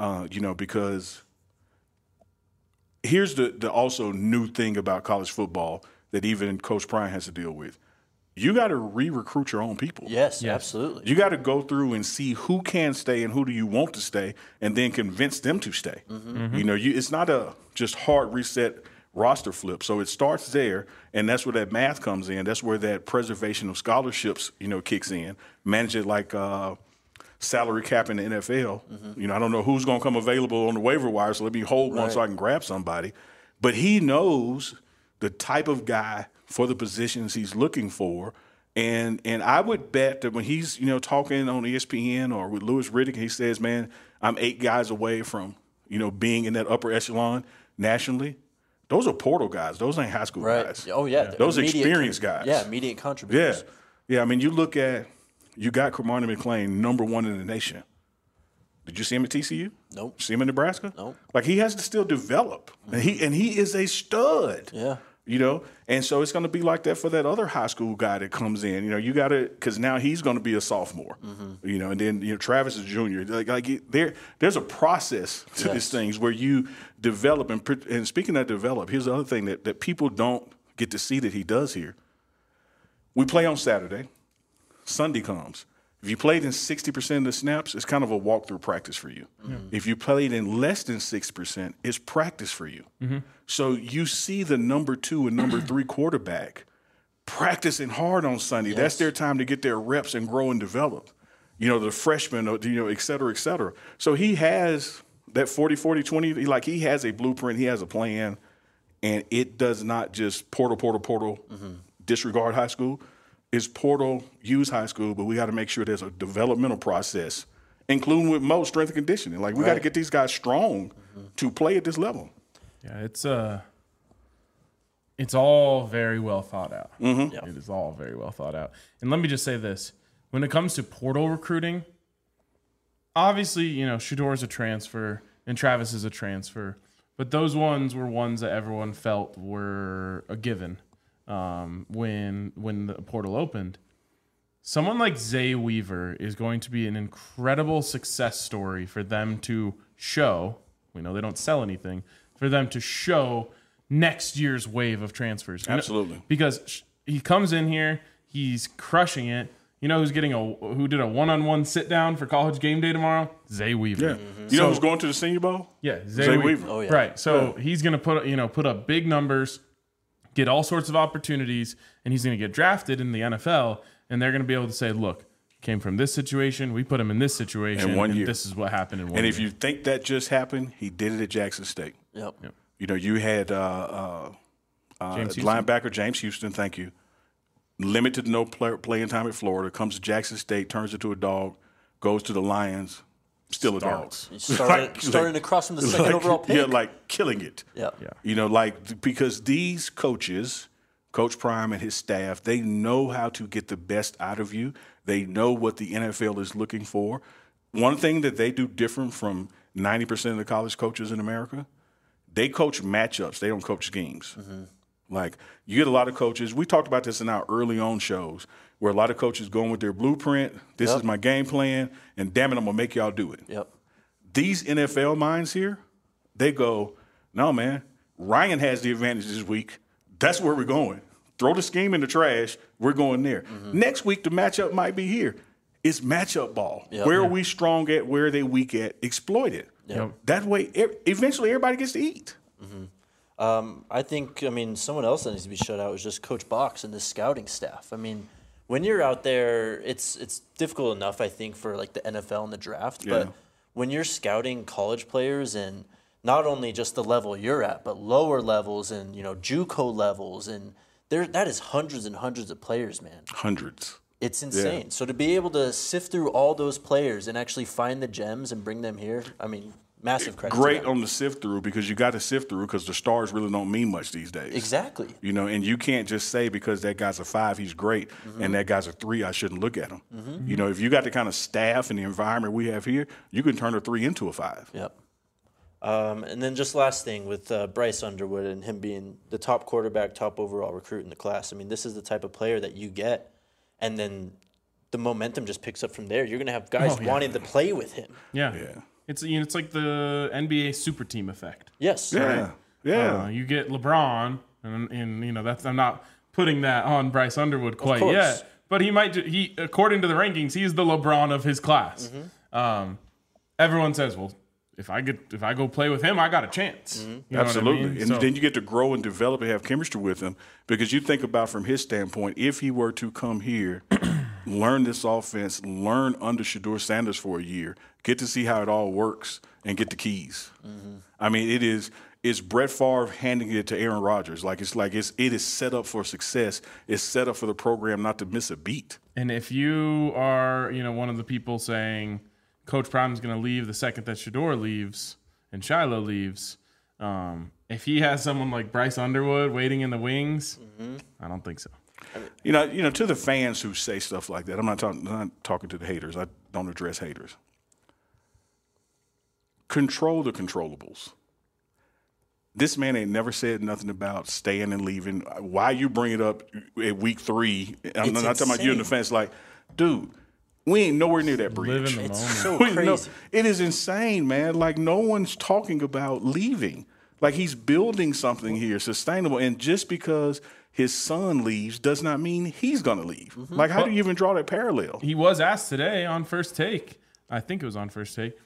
Because here's the also new thing about college football that even Coach Prime has to deal with. You got to re-recruit your own people. Yes, absolutely. You got to go through and see who can stay and who do you want to stay, and then convince them to stay. Mm-hmm. You know, it's not a just hard reset roster flip. So it starts there, and that's where that math comes in. That's where that preservation of scholarships, kicks in. Manage it like salary cap in the NFL. Mm-hmm. I don't know who's going to come available on the waiver wire, so let me hold one so I can grab somebody. But he knows the type of guy for the positions he's looking for. And I would bet that when he's, talking on ESPN or with Louis Riddick, he says, man, I'm 8 guys away from, being in that upper echelon nationally. Those are portal guys. Those ain't high school guys. Oh, yeah. Those experienced guys. Yeah, immediate contributors. Yeah. I mean, you look at you got Cormani McClain #1 in the nation. Did you see him at TCU? Nope. See him in Nebraska? Nope. Like, he has to still develop, and he is a stud. Yeah. You know, and so it's going to be like that for that other high school guy that comes in. You know, you got to, because now he's going to be a sophomore. You know, and then Travis is a junior. There's a process to these things where you develop, and speaking of develop, here's the other thing that people don't get to see that he does here. We play on Saturday. Sunday comes. If you played in 60% of the snaps, it's kind of a walkthrough practice for you. If you played in less than 6%, it's practice for you. So you see the #2 and #3 quarterback practicing hard on Sunday. That's their time to get their reps and grow and develop. You know, the freshmen, et cetera, et cetera. So he has that 40-40-20. Like, he has a blueprint. He has a plan. And it does not just portal, disregard high school. It's portal, use high school, but we got to make sure there's a developmental process, including with Mo, strength and conditioning. Like, we got to get these guys strong to play at this level. Yeah, it's all very well thought out. Yeah. It is all very well thought out. And let me just say this. When it comes to portal recruiting, obviously, Shedeur is a transfer and Travis is a transfer, but those ones were ones that everyone felt were a given. When the portal opened, someone like Zay Weaver is going to be an incredible success story for them to show. We know they don't sell anything, for them to show next year's wave of transfers. Absolutely. Because he comes in here, he's crushing it. You know who did a one-on-one sit-down for College Game Day tomorrow? Zay Weaver. Yeah. You know who's going to the Senior Bowl? Yeah, Zay Weaver. Oh, yeah. Right. So he's going to put up big numbers, get all sorts of opportunities, and he's going to get drafted in the NFL, and they're going to be able to say, look, came from this situation, we put him in this situation, in 1 year. And this is what happened in 1 year. And if you think that just happened, he did it at Jackson State. Yep. You know, you had James Houston. linebacker James Houston, thank you, limited no playing time at Florida, comes to Jackson State, turns into a dog, goes to the Lions, still a dog. He started across from the second overall pick. Yeah, like killing it. Yeah. You know, like, because these coaches, Coach Prime and his staff, they know how to get the best out of you. They know what the NFL is looking for. One thing that they do different from 90% of the college coaches in America, they coach matchups. They don't coach schemes. Like, you get a lot of coaches. We talked about this in our early on shows where a lot of coaches going with their blueprint. This is my game plan, and damn it, I'm going to make y'all do it. Yep. These NFL minds here, they go, no, man, Ryan has the advantage this week. That's where we're going. Throw the scheme in the trash. We're going there. Next week, the matchup might be here. It's matchup ball. Yep. Where are we strong at? Where are they weak at? Exploit it. Yep. That way, eventually, everybody gets to eat. I think, someone else that needs to be shut out is just Coach Box and the scouting staff. When you're out there, it's difficult enough, I think, for like the NFL and the draft. Yeah. But when you're scouting college players and not only just the level you're at, but lower levels and JUCO levels, and that is hundreds and hundreds of players, man. Hundreds. It's insane. So to be able to sift through all those players and actually find the gems and bring them here, massive credit. Great on the sift through, because you got to sift through, because the stars really don't mean much these days. Exactly. And you can't just say because that guy's a 5, he's great, and that guy's a 3, I shouldn't look at him. If you got the kind of staff and the environment we have here, you can turn a 3 into a 5. Yep. And then just last thing with Bryce Underwood and him being the top quarterback, top overall recruit in the class. This is the type of player that you get, and then the momentum just picks up from there. You're going to have guys wanting to play with him. Yeah. It's like the NBA super team effect. Yes. Yeah. Yeah. You get LeBron, and that's, I'm not putting that on Bryce Underwood quite yet, but he might. He according to the rankings, he's the LeBron of his class. Everyone says, well, if I go play with him, I got a chance. You know Absolutely. what I mean? And then you get to grow and develop and have chemistry with him, because you think about from his standpoint, if he were to come here, learn this offense, learn under Shedeur Sanders for a year, get to see how it all works, and get the keys. It's Brett Favre handing it to Aaron Rodgers. It is set up for success. It's set up for the program not to miss a beat. And if you are, one of the people saying Coach Prime's going to leave the second that Shedeur leaves and Shiloh leaves, if he has someone like Bryce Underwood waiting in the wings, I don't think so. To the fans who say stuff like that, I'm not talking to the haters. I don't address haters. Control the controllables. This man ain't never said nothing about staying and leaving. Why you bring it up at week 3? I'm not talking about you in the fence. Like, dude, we ain't nowhere near that bridge. It's so crazy. It is insane, man. Like, no one's talking about leaving. Like, he's building something here, sustainable. And just because his son leaves does not mean he's going to leave. Mm-hmm. Like, how do you even draw that parallel? He was asked today on First Take. I think it was on First Take.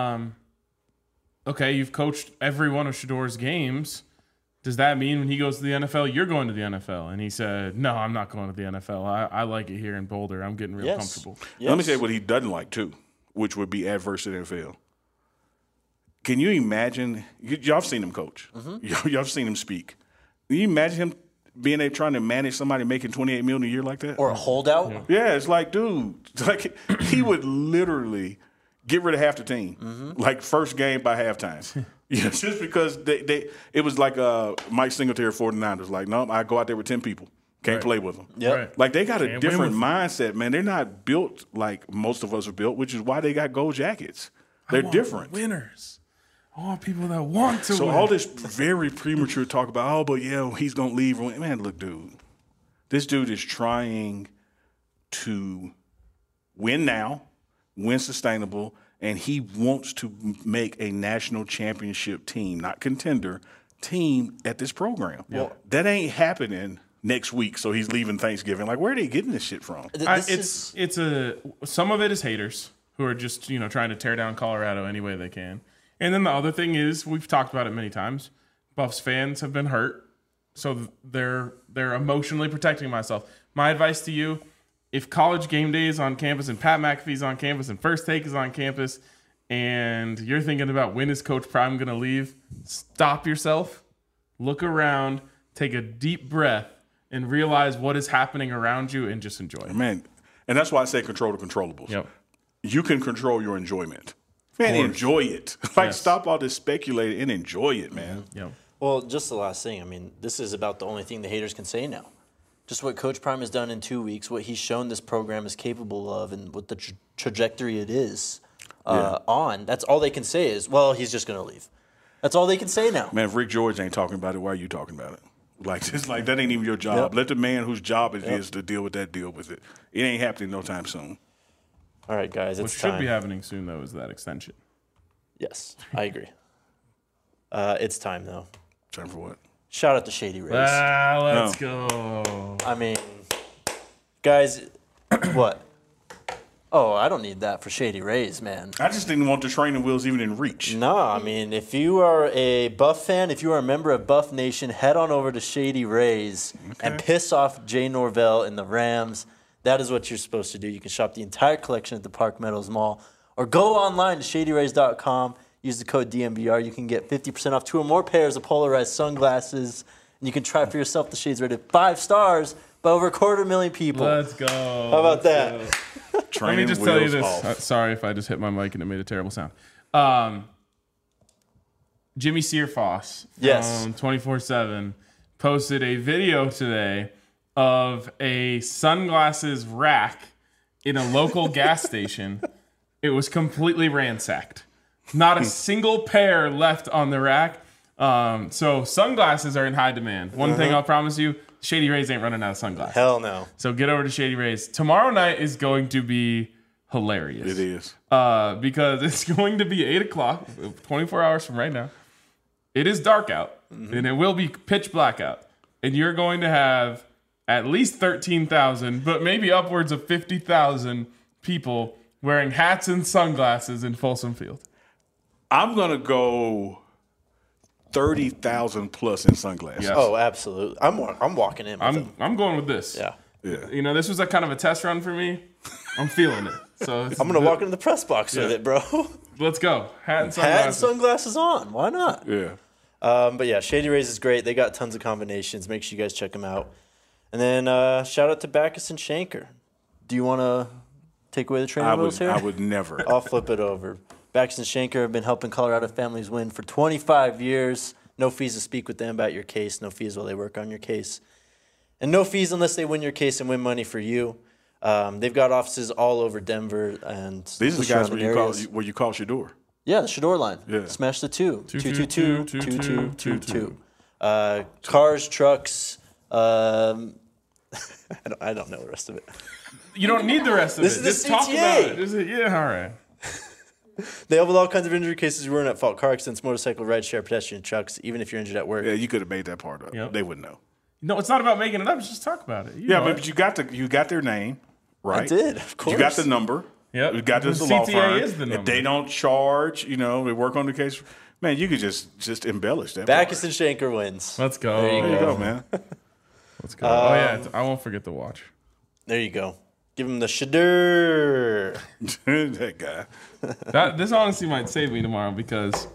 Okay, you've coached every one of Shedor's games. Does that mean when he goes to the NFL, you're going to the NFL? And he said, no, I'm not going to the NFL. I like it here in Boulder. I'm getting real comfortable. Yes. Let me say what he doesn't like, too, which would be adverse to the NFL. Can you imagine? Y'all have seen him coach. Mm-hmm. Y'all have seen him speak. Can you imagine him being there trying to manage somebody making $28 million a year like that? Or a holdout? Yeah, it's like, dude, like he would literally get rid of half the team, like first game by halftime. Just because it was like Mike Singletary 49ers. Like, no, I go out there with 10 people. Can't play with them. Yep. Right. Like, they got a different mindset, man. They're not built like most of us are built, which is why they got gold jackets. They're different. Winners. I want people that want to win. So all this very premature talk about, but he's going to leave. Man, look, dude. This dude is trying to win now, win sustainable, and he wants to make a national championship team, not contender, team at this program. Well, that ain't happening next week, so he's leaving Thanksgiving. Like, where are they getting this shit from? Some of it is haters who are just, trying to tear down Colorado any way they can. And then the other thing is, we've talked about it many times, Buffs fans have been hurt, so they're emotionally protecting myself. My advice to you, if College Game Day is on campus and Pat McAfee's on campus and First Take is on campus and you're thinking about when is Coach Prime going to leave, stop yourself, look around, take a deep breath, and realize what is happening around you and just enjoy it. Man, and that's why I say control the controllables. Yep. You can control your enjoyment. Man, enjoy it. Stop all this speculating and enjoy it, man. Yep. Well, just the last thing. I mean, this is about the only thing the haters can say now. Just what Coach Prime has done in 2 weeks, what he's shown this program is capable of, and what the trajectory it is on. That's all they can say is, well, he's just going to leave. That's all they can say now. Man, if Rick George ain't talking about it, why are you talking about it? Like, it's like that ain't even your job. Yep. Let the man whose job it is to deal with that deal with it. It ain't happening no time soon. All right, guys, it's time. What should be happening soon, though, is that extension. Yes, I agree. It's time, though. Time for what? Shout out to Shady Rays. Let's go. I mean, guys, what? Oh, I don't need that for Shady Rays, man. I just didn't want the training wheels even in reach. No, I mean, if you are a Buff fan, if you are a member of Buff Nation, head on over to Shady Rays and piss off Jay Norvell and the Rams. That is what you're supposed to do. You can shop the entire collection at the Park Meadows Mall or go online to shadyrays.com. Use the code DMVR. You can get 50% off 2 or more pairs of polarized sunglasses. And you can try for yourself the shades rated 5 stars by over 250,000 people. Let's go. How about that? Let me just tell you this. Sorry if I just hit my mic and it made a terrible sound. Jimmy Searfoss from 24/7 posted a video today of a sunglasses rack in a local gas station. It was completely ransacked. Not a single pair left on the rack. So sunglasses are in high demand. One thing I'll promise you, Shady Rays ain't running out of sunglasses. Hell no. So get over to Shady Rays. Tomorrow night is going to be hilarious. It is. Because it's going to be 8 o'clock, 24 hours from right now. It is dark out, and it will be pitch black out. And you're going to have at least 13,000, but maybe upwards of 50,000 people wearing hats and sunglasses in Folsom Field. I'm going to go 30,000 plus in sunglasses. Yes. Oh, absolutely. I'm walking in with them. I'm going with this. Yeah. This was a kind of a test run for me. I'm feeling it. So I'm going to walk into the press box with it, bro. Let's go. Hat and sunglasses. Hat and sunglasses on. Why not? Yeah. But yeah, Shady Rays is great. They got tons of combinations. Make sure you guys check them out. And then shout out to Backus and Shanker. Do you want to take away the trainer wheels here? I would never. I'll flip it over. Backus and Shanker have been helping Colorado families win for 25 years. No fees to speak with them about your case. No fees while they work on your case. And no fees unless they win your case and win money for you. They've got offices all over Denver and These are the guys where you call Shador. Yeah, the Shador line. Yeah. Smash the 2. 222. Cars, trucks. I don't know the rest of it. You don't need the rest of This it. is the Just talk CTA. about it. Yeah, all right. They have all kinds of injury cases. You weren't at fault. Car accidents, motorcycle, rideshare, pedestrian, trucks, even if you're injured at work. Yeah, you could have made that part up. Yep. They wouldn't know. No, it's not about making it up. Just talk about it. You Yeah, know but it. you got their name, right? I did, of course. You got the number. Yep. You got this The law CTA firm. is the If number. they don't charge, they work on the case. Man, you could just embellish that. Backus part. and Shanker wins. Let's go. There you There you go, man. Let's go. Oh yeah, I won't forget the watch. There you go. Give him the Shador. That guy. This honestly might save me tomorrow because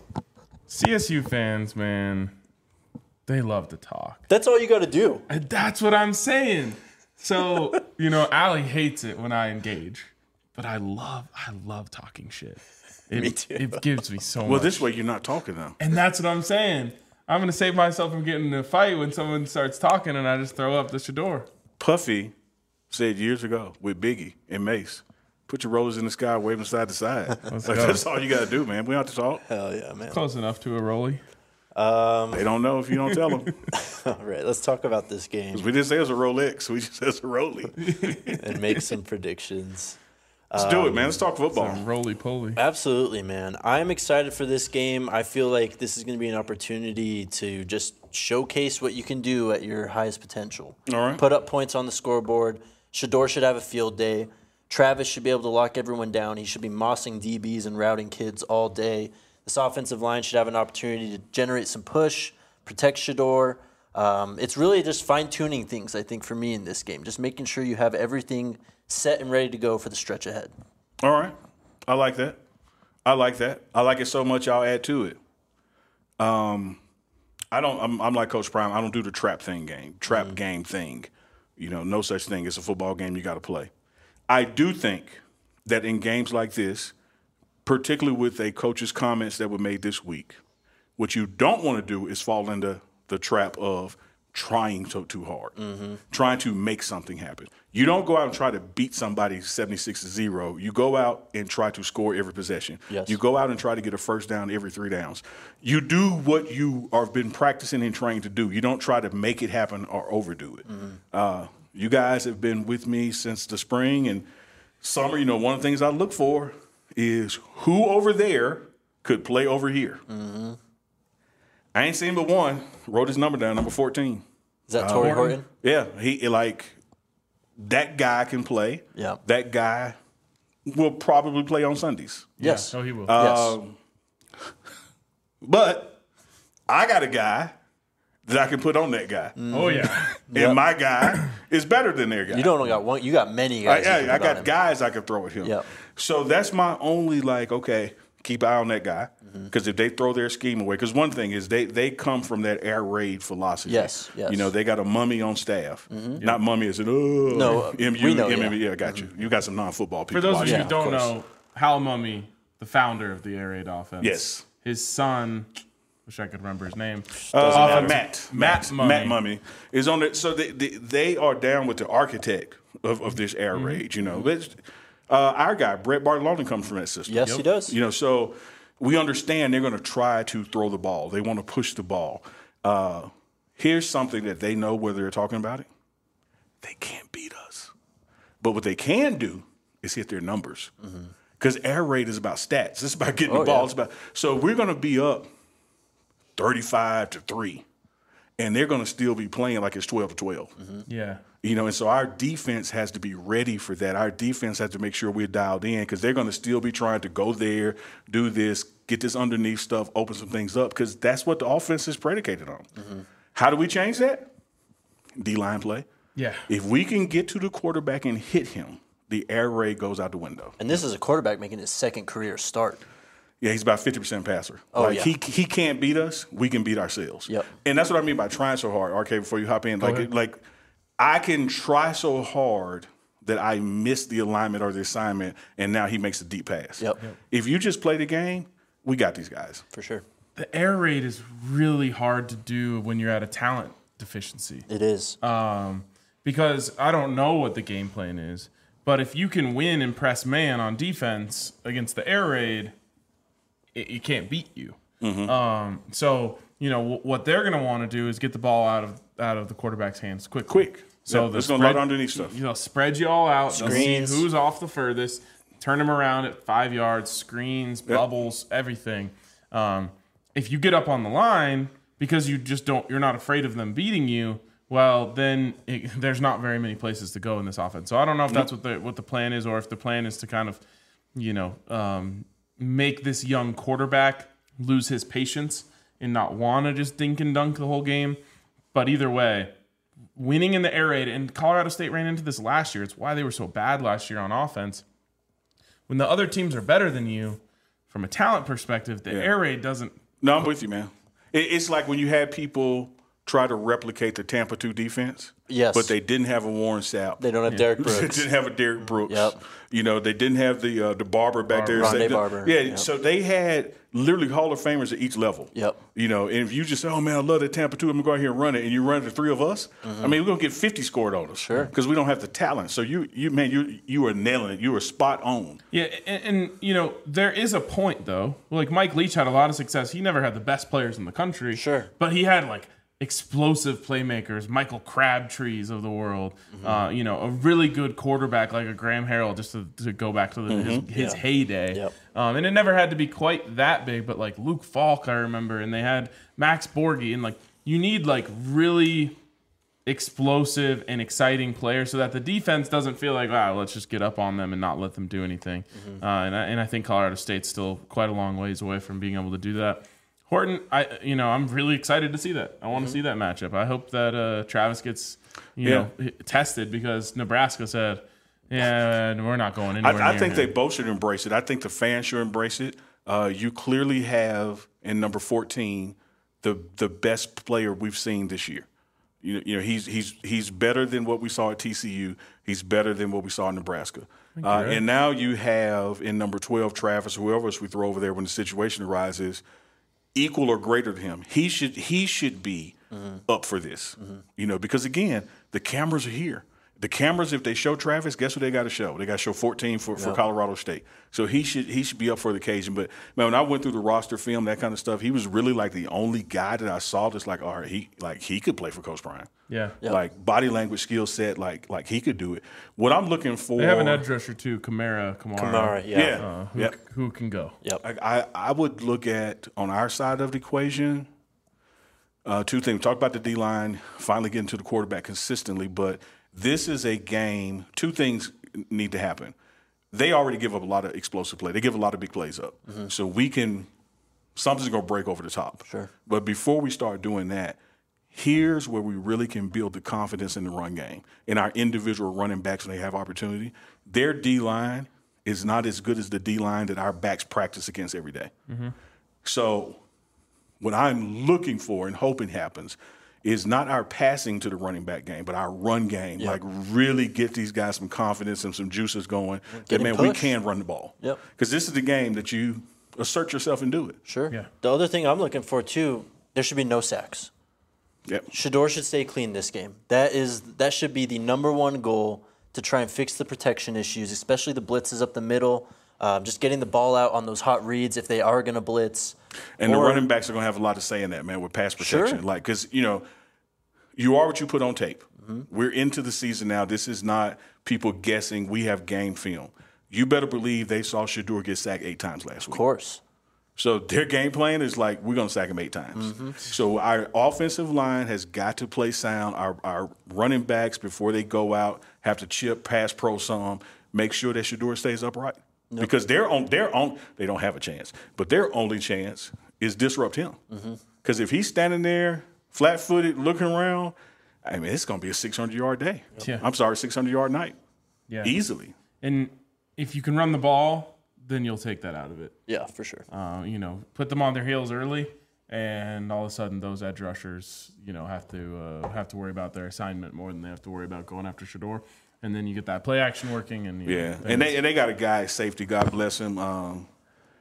CSU fans, man, they love to talk. That's all you got to do. And that's what I'm saying. So, Allie hates it when I engage, but I love talking shit. Me too. It gives me so much. Well, this way you're not talking now. And that's what I'm saying. I'm going to save myself from getting in a fight when someone starts talking and I just throw up the Shador. Puffy said years ago with Biggie and Mace, put your roses in the sky, wave them side to side. Let's Like, go. that's all you got to do, man. We don't have to talk. Hell yeah, man. Close enough to a rollie. They don't know if you don't tell them. All right, let's talk about this game We didn't say it was a Rolex. We just said it's a Rollie. and make some predictions. Let's do it, man. Let's talk football. Roly poly. Absolutely, man. I'm excited for this game. I feel like this is going to be an opportunity to just showcase what you can do at your highest potential. All right. Put up points on the scoreboard. Shador should have a field day. Travis should be able to lock everyone down. He should be mossing DBs and routing kids all day. This offensive line should have an opportunity to generate some push, protect Shador. It's really just fine-tuning things, I think, for me in this game. Just making sure you have everything set and ready to go for the stretch ahead. All right. I like that. I like it so much I'll add to it. I'm like Coach Prime. I don't do the trap game thing. No such thing. It's a football game you got to play. I do think that in games like this, particularly with a coach's comments that were made this week, what you don't want to do is fall into the trap of trying too hard, trying to make something happen. You don't go out and try to beat somebody 76-0. You go out and try to score every possession. Yes. You go out and try to get a first down every 3 downs. You do what you have been practicing and trying to do. You don't try to make it happen or overdo it. You guys have been with me since the spring and summer. One of the things I look for is who over there could play over here. I ain't seen but one. Wrote his number down, number 14. Is that Torrey Horton? Yeah, that guy can play. Yeah. That guy will probably play on Sundays. Yes. Oh, he will. Yes. But I got a guy that I can put on that guy. Oh, yeah. And my guy is better than their guy. You don't got one. You got many guys. you can I put on got him. guys I can throw at him. Yep. So that's my only okay, keep an eye on that guy. Because if they throw their scheme away, because one thing is they come from that air raid philosophy. Yes, yes. They got a mummy on staff. Not mummy as in, No, we know, yeah, I got you. You got some non-football people. For those of you watching. who don't course. know, Hal Mummy, the founder of the air raid offense. Yes. His son, wish I could remember his name. Matt Mummy is on it. So they are down with the architect of this air raid. Our guy Brett Bartolone comes from that system. Yes, he does. So we understand they're going to try to throw the ball. They want to push the ball. Here's something that they know whether they're talking about it. They can't beat us. But what they can do is hit their numbers. Because air raid is about stats. It's about getting the ball. Yeah. So we're going to be up 35-3. And they're going to still be playing like it's 12-12. Yeah. And so our defense has to be ready for that. Our defense has to make sure we're dialed in because they're going to still be trying to go there, do this, get this underneath stuff, open some things up because that's what the offense is predicated on. How do we change that? D-line play. Yeah. If we can get to the quarterback and hit him, the air raid goes out the window. And this is a quarterback making his second career start. Yeah, he's about 50% passer. Oh, yeah. He can't beat us. We can beat ourselves. Yep. And that's what I mean by trying so hard. RK, before you hop in, ahead. I can try so hard that I miss the alignment or the assignment, and now he makes a deep pass. Yep. If you just play the game, we got these guys. For sure. The air raid is really hard to do when you're at a talent deficiency. It is. because I don't know what the game plan is. But if you can win and press man on defense against the air raid, it can't beat you. So what they're going to want to do is get the ball out of the quarterback's hands quick. So there's going to load underneath stuff. Spread you all out. Screens. See who's off the furthest. Turn them around at 5 yards. Screens, bubbles, everything. If you get up on the line because you're not afraid of them beating you, well, then there's not very many places to go in this offense. So I don't know if that's what the plan is, or if the plan is to kind of, make this young quarterback lose his patience and not want to just dink and dunk the whole game. But either way, winning in the air raid, and Colorado State ran into this last year. It's why they were so bad last year on offense. When the other teams are better than you, from a talent perspective, the air raid doesn't. No, I'm with you, man. It's like when you had people try to replicate the Tampa 2 defense. Yes. But they didn't have a Warren Sapp. They don't have Derek Brooks. They didn't have a Derek Brooks. Yep. They didn't have the Barber back there. Rondé Barber. Yeah, Yep. So they had literally Hall of Famers at each level. Yep. And if you just say, oh, man, I love that Tampa 2, I'm going to go out here and run it, and you run the three of us, I mean, we're going to get 50 scored on us. Sure. Because we don't have the talent. So, you were nailing it. You were spot on. Yeah, and there is a point, though. Like, Mike Leach had a lot of success. He never had the best players in the country. Sure. But he had, explosive playmakers, Michael Crabtrees of the world, a really good quarterback like a Graham Harrell, just to go back to his heyday. Yep. And it never had to be quite that big, but Luke Falk, I remember, and they had Max Borghi, and you need really explosive and exciting players so that the defense doesn't feel like, let's just get up on them and not let them do anything. And I think Colorado State's still quite a long ways away from being able to do that. Horton, I'm really excited to see that. I want to see that matchup. I hope that Travis gets, tested, because Nebraska said, we're not going anywhere. I think they both should embrace it. I think the fans should embrace it. You clearly have in number 14 the best player we've seen this year. He's better than what we saw at TCU. He's better than what we saw in Nebraska. And now you have in number 12 Travis, whoever else we throw over there when the situation arises, equal or greater than him. He should be up for this. Because again, the cameras are here. The cameras, if they show Travis, guess what they got to show? They got to show 14 for Colorado State. So he should be up for the occasion. But man, when I went through the roster film, that kind of stuff, he was really the only guy that I saw that's all right, he could play for Coach Prime. Yeah. Yep. Body language skill set, he could do it. What I'm looking for, they have an edge rusher too, Kamara, who can go. Yep. I would look at on our side of the equation. Two things. Talk about the D-line, finally getting to the quarterback consistently, but this is a game. Two things need to happen. They already give up a lot of explosive play. They give a lot of big plays up. So something's going to break over the top. Sure. But before we start doing that, here's where we really can build the confidence in the run game. In our individual running backs when they have opportunity, their D-line is not as good as the D-line that our backs practice against every day. So what I'm looking for and hoping happens is not our passing to the running back game, but our run game. Yep. Really get these guys some confidence and some juices going. We can run the ball. Yep. Because this is the game that you assert yourself and do it. Sure. Yeah. The other thing I'm looking for too, there should be no sacks. Yep. Shedeur should stay clean this game. That should be the number one goal to try and fix the protection issues, especially the blitzes up the middle. Just getting the ball out on those hot reads if they are going to blitz. And the running backs are going to have a lot to say in that, man, with pass protection. Sure. Because, you are what you put on tape. We're into the season now. This is not people guessing. We have game film. You better believe they saw Shedeur get sacked 8 times last week. Of course. So their game plan is we're going to sack him 8 times. So our offensive line has got to play sound. Our running backs, before they go out, have to chip, pass pro some, make sure that Shedeur stays upright. Yep. Because they don't have a chance. But their only chance is disrupt him. Because if he's standing there flat-footed looking around, it's going to be a 600-yard day. Yeah. I'm sorry, 600-yard night. Yeah. Easily. And if you can run the ball, then you'll take that out of it. Yeah, for sure. Put them on their heels early, and all of a sudden those edge rushers, have to worry about their assignment more than they have to worry about going after Shedeur. And then you get that play action working, and and they got a guy at safety. God bless him.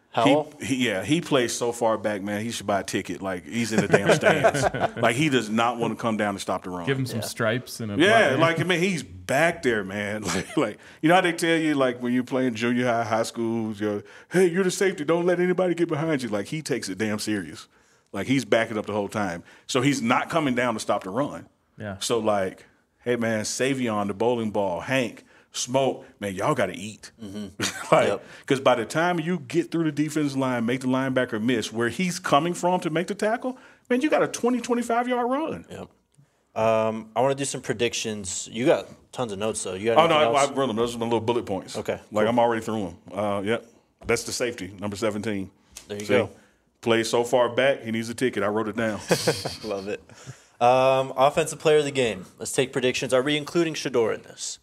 Howell? He plays so far back, man. He should buy a ticket. Like, he's in the damn stands. Like, he does not want to come down and stop the run. Give him some stripes and a like, I mean, he's back there, man. Like, you know how they tell you, like, when you're playing junior high, high schools, hey, you're the safety. Don't let anybody get behind you. Like, he takes it damn serious. Like, he's backing up the whole time. So he's not coming down to stop the run. Yeah. So, like, hey, man, Savion, the bowling ball, Hank, Smoke, man, y'all got to eat. Because by the time you get through the defensive line, make the linebacker miss where he's coming from to make the tackle, man, you got a 20, 25-yard run. Yep. I want to do some predictions. You got tons of notes, though. You got I wrote them. Those are my little bullet points. Okay. Like, I'm already through them. Yep. That's the safety, number 17. There you go. Plays so far back, he needs a ticket. I wrote it down. Love it. Offensive player of the game. Let's take predictions. Are we including Shedeur in this?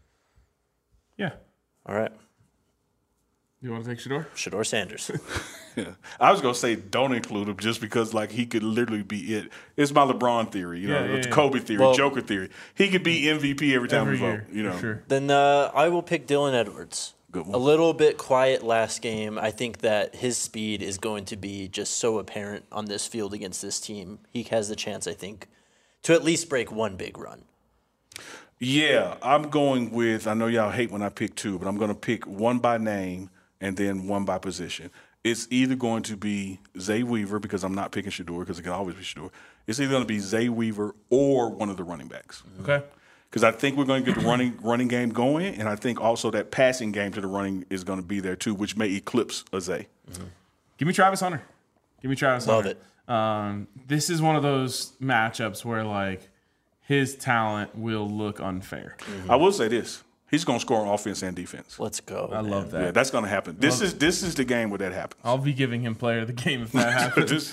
Yeah. All right. You want to take Shedeur? Shedeur Sanders. Yeah. I was going to say don't include him just because, like, he could literally be it. It's my LeBron theory, Kobe theory, Joker theory. He could be MVP every time we vote, Sure. Then I will pick Dylan Edwards. Good one. A little bit quiet last game. I think that his speed is going to be just so apparent on this field against this team. He has the chance, I think, to at least break one big run. Yeah, I'm going with, I know y'all hate when I pick two, but I'm going to pick one by name and then one by position. It's either going to be Zay Weaver, because I'm not picking Shedeur, because it can always be Shedeur. It's either going to be Zay Weaver or one of the running backs. Okay. Because I think we're going to get the running game going, and I think also that passing game to the running is going to be there too, which may eclipse a Zay. Mm-hmm. Give me Travis Hunter. Love it. This is one of those matchups where, like, his talent will look unfair. Mm-hmm. I will say this. He's going to score on offense and defense. Let's go. I love that. Yeah, that's going to happen. This is the game where that happens. I'll be giving him player of the game if that happens.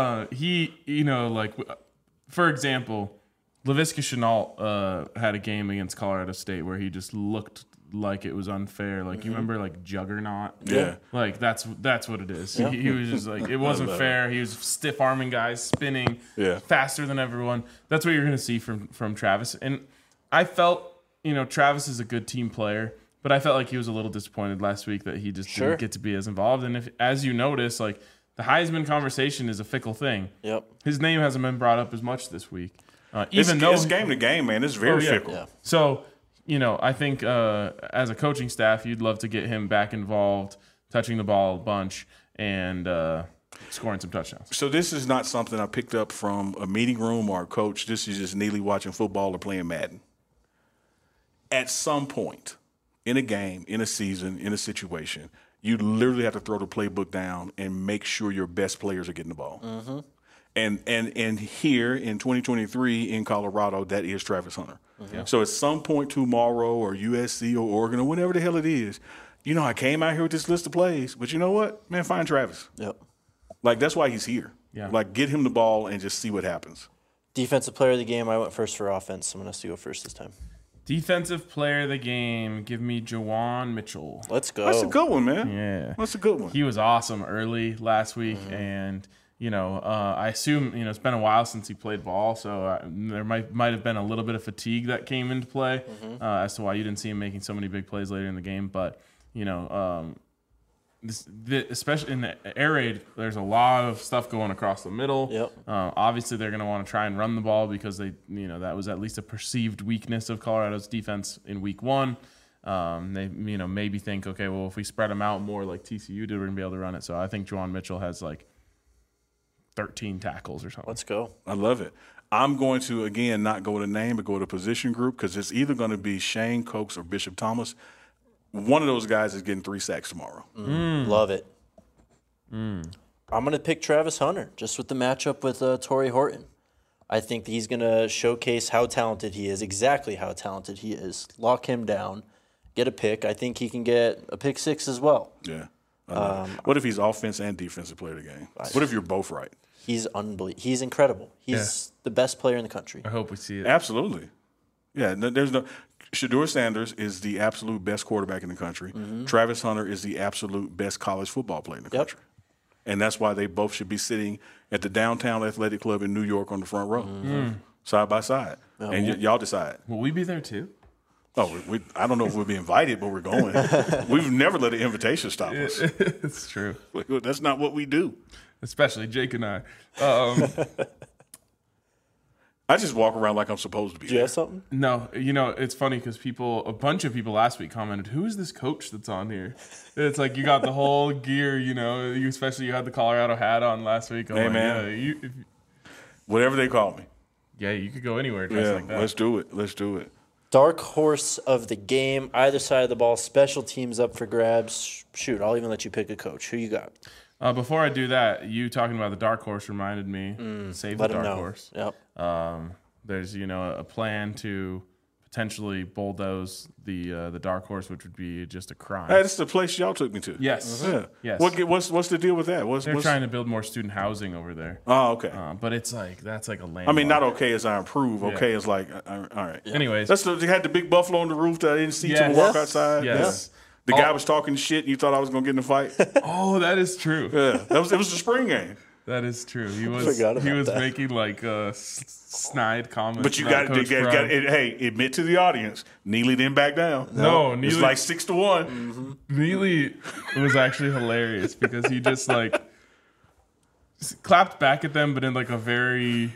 For example, Laviska Shenault had a game against Colorado State where he just looked like it was unfair. Like, you remember, like, Juggernaut? Yeah. Like, that's what it is. Yeah. He was just like, it wasn't fair. He was stiff-arming guys, spinning faster than everyone. That's what you're going to see from Travis. And I felt, Travis is a good team player, but I felt like he was a little disappointed last week that he just didn't get to be as involved. And if, as you notice, like, the Heisman conversation is a fickle thing. Yep. His name hasn't been brought up as much this week. It's game to game, man. It's very fickle. Yeah. So, I think as a coaching staff, you'd love to get him back involved, touching the ball a bunch, and scoring some touchdowns. So this is not something I picked up from a meeting room or a coach. This is just Neely watching football or playing Madden. At some point in a game, in a season, in a situation, you literally have to throw the playbook down and make sure your best players are getting the ball. Mm-hmm. And here in 2023 in Colorado, that is Travis Hunter. Mm-hmm. So at some point tomorrow or USC or Oregon or whatever the hell it is, I came out here with this list of plays, but you know what? Man, find Travis. Yep. Like, that's why he's here. Yeah. Like, get him the ball and just see what happens. Defensive player of the game, I went first for offense. Someone has to go first this time. Defensive player of the game, give me Jawan Mitchell. Let's go. That's a good one, man. Yeah. That's a good one. He was awesome early last week, and I assume it's been a while since he played ball, so there might have been a little bit of fatigue that came into play as to why you didn't see him making so many big plays later in the game. But especially in the air raid, there's a lot of stuff going across the middle. Yep. Obviously, they're going to want to try and run the ball because that was at least a perceived weakness of Colorado's defense in week one. They maybe think, okay, well, if we spread them out more like TCU did, we're going to be able to run it. So I think Jawan Mitchell has like 13 tackles or something. Let's go. I love it. I'm going to, again, not go with a name, but go with a position group because it's either going to be Shane Cokes or Bishop Thomas. One of those guys is getting 3 sacks tomorrow. Love it. I'm going to pick Travis Hunter just with the matchup with Torrey Horton. I think he's going to showcase how talented he is, exactly how talented he is. Lock him down, get a pick. I think he can get a pick 6 as well. Yeah. What if he's offense and defensive player of the game? What if you're both right? He's unbelievable. He's incredible. He's the best player in the country. I hope we see it. Absolutely. Yeah, there's no – Shedeur Sanders is the absolute best quarterback in the country. Mm-hmm. Travis Hunter is the absolute best college football player in the country. And that's why they both should be sitting at the Downtown Athletic Club in New York on the front row, side by side. And y'all decide. Will we be there too? Oh, I don't know if we'll be invited, but we're going. We've never let an invitation stop us. It's true. That's not what we do. Especially Jake and I. I just walk around like I'm supposed to be. Do you there. have something? No, it's funny because a bunch of people last week commented, "Who is this coach that's on here?" It's like you got the whole gear, you had the Colorado hat on last week. I'm Hey, like, man. Whatever they call me. Yeah, you could go anywhere dressed like that. Let's do it. Let's do it. Dark horse of the game, either side of the ball, special teams up for grabs. Shoot, I'll even let you pick a coach. Who you got? Before I do that, you talking about the dark horse reminded me. Save the Let him dark know. horse. Yep. There's a plan to potentially bulldoze the dark horse, which would be just a crime. Hey, that's the place y'all took me to. Yes. Yeah. Yes. What's the deal with that? They're trying to build more student housing over there. Oh, okay. But it's like that's like a land. I mean, not okay as I improve. Okay as like, all right. Anyways, They had the big buffalo on the roof that I didn't see till Yes. we walk outside. Yes. The guy was talking shit, and you thought I was gonna get in a fight. Oh, that is true. Yeah, it was the spring game. That is true. He was Forgot about that. making like snide comments. But you about got Coach Prime. hey, admit to the audience, Neely didn't back down. No, It's Neely, like 6-1. Neely was actually hilarious because he just like clapped back at them, but in like a very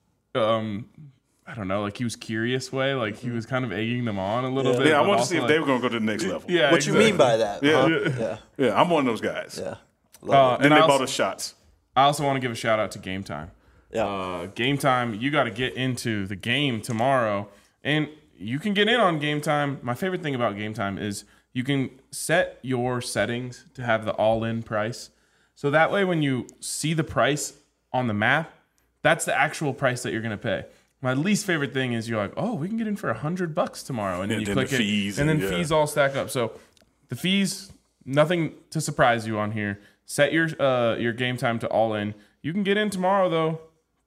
I don't know, like he was curious way. Like he was kind of egging them on a little bit. Yeah, I but wanted to also, see if like, they were gonna go to the next level. Yeah, What you mean by that? Yeah. Huh? Yeah, I'm one of those guys. Yeah. And Then they I bought also, us shots. I also want to give a shout out to Game Time. Yeah. Game Time, you got to get into the game tomorrow, and you can get in on Game Time. My favorite thing about Game Time is you can set your settings to have the all-in price. So that way when you see the price on the map, that's the actual price that you're going to pay. My least favorite thing is you're like, oh, we can get in for $100 tomorrow, and then And you then click the fees it, and then and- yeah. fees all stack up. So the fees, nothing to surprise you on here. Set your Game Time to all in. You can get in tomorrow though,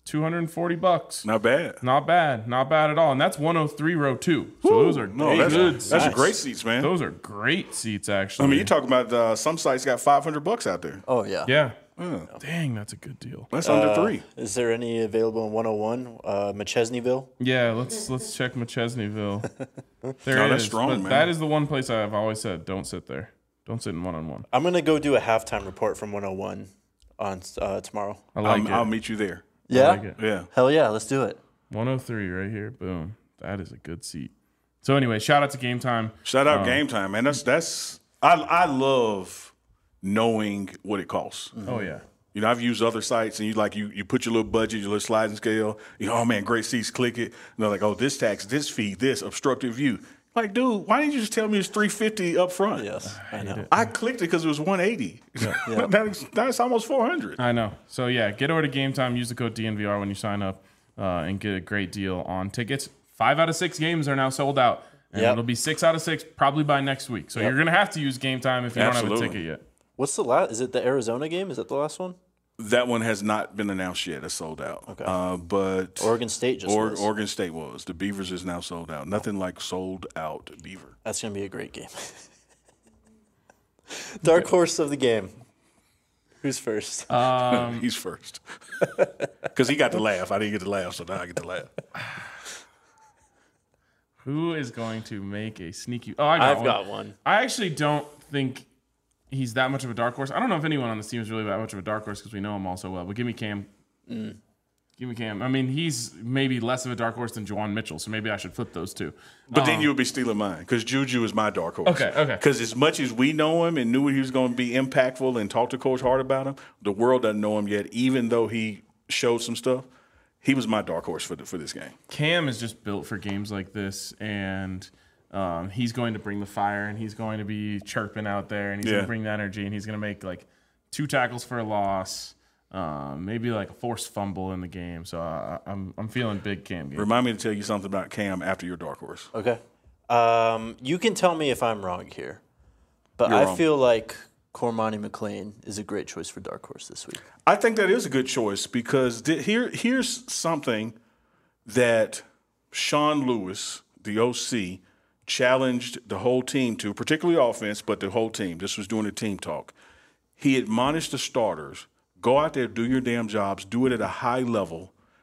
$240. Not bad. Not bad, not bad at all. And that's 103 row 2. So those are No, good. that's Nice. great seats, man. Those are great seats, actually. I mean, you're talking about some sites got $500 out there. Oh, yeah. yeah. Dang, that's a good deal. That's under $3. Is there any available in 101? McChesneyville? Yeah, let's check McChesneyville. There No, it that's is. strong, But man. that is the one place I've always said, don't sit there. Don't sit in one-on-one. I'm going to go do a halftime report from 101 on tomorrow. I like I'll it. meet you there. Yeah? like it. Yeah. Hell yeah, let's do it. 103 right here. Boom. That is a good seat. So anyway, shout out to Game Time. Shout out Game Time, man. That's I love knowing what it costs. Oh yeah. You know, I've used other sites, and you put your little budget, your little sliding scale. Oh man, great seats. Click it. And they're like, oh, this tax, this fee, this obstructive view. Like, dude, why didn't you just tell me it's $350 up front? Yes, I know. I clicked it because it was $180. That's almost $400. I know. So yeah, get over to Game Time. Use the code DNVR when you sign up, and get a great deal on tickets. 5 out of 6 games are now sold out, and Yep. it'll be 6 out of 6 probably by next week. So you're gonna have to use Game Time if you don't have Absolutely. a ticket yet. What's the last? Is it the Arizona game? Is that the last one? That one has not been announced yet. It's sold out. Okay. But Oregon State just was. Oregon State was. The Beavers is now sold out. Nothing like sold out Beaver. That's going to be a great game. Dark horse of the game. Who's first? He's first. Because he got to laugh. I didn't get to laugh, so now I get to laugh. Who is going to make a sneaky? Oh, I've got one. I actually don't think he's that much of a dark horse. I don't know if anyone on this team is really that much of a dark horse because we know him all so well. But give me Cam. Give me Cam. I mean, he's maybe less of a dark horse than Juwan Mitchell, so maybe I should flip those two. But then you'll be stealing mine because Juju is my dark horse. Okay. Because as much as we know him and knew he was going to be impactful and talk to Coach Hart about him, the world doesn't know him yet, even though he showed some stuff. He was my dark horse for this game. Cam is just built for games like this, and he's going to bring the fire, and he's going to be chirping out there, and he's going to bring the energy, and he's going to make like 2 tackles for a loss, maybe like a forced fumble in the game. So I'm feeling big Cam game. Remind me to tell you something about Cam after your dark horse. Okay. You can tell me if I'm wrong here, but You're I wrong. feel like Cormani McLean is a great choice for dark horse this week. I think that is a good choice because here's something that Sean Lewis, the OC, challenged the whole team to, particularly offense, but the whole team. This was during the team talk. He admonished the starters, go out there, do your damn jobs, do it at a high level.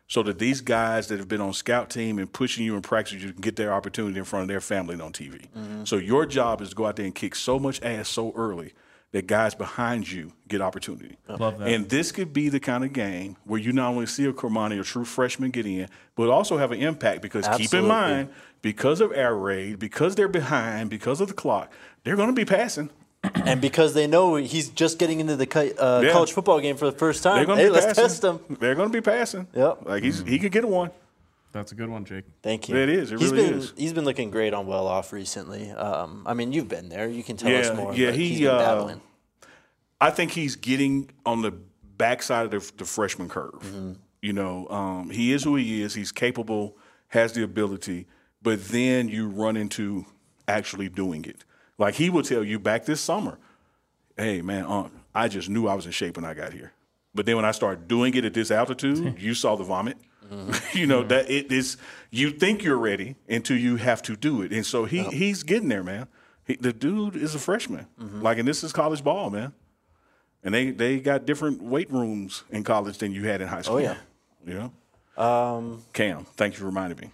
so that these guys that have been on scout team and pushing you in practice, you can get their opportunity in front of their family and on TV. So your job is to go out there and kick so much ass so early that guys behind you get opportunity. Love that. And this could be the kind of game where you not only see a Cormani, a true freshman, get in, but also have an impact because keep in Absolutely. mind, because of air raid, because they're behind, because of the clock, they're going to be passing. And because they know he's just getting into the college football game for the first time, They're going to hey, be let's passing. test him. They're going to be passing. Yep. Like he could get one. That's a good one, Jake. Thank you. It is. It He's really been, is. He's been looking great on Well Off recently. I mean, you've been there. You can tell us more. Yeah, but he, he's been battling. I think he's getting on the backside of the freshman curve. You know, he is who he is. He's capable, has the ability, but then you run into actually doing it. Like he will tell you back this summer, hey, man, I just knew I was in shape when I got here. But then when I started doing it at this altitude, you saw the vomit. You know, that it is, you think you're ready until you have to do it. And so he's getting there, man. The dude is a freshman. Like, and this is college ball, man. And they got different weight rooms in college than you had in high school. Oh, yeah. You know? Cam, thank you for reminding me.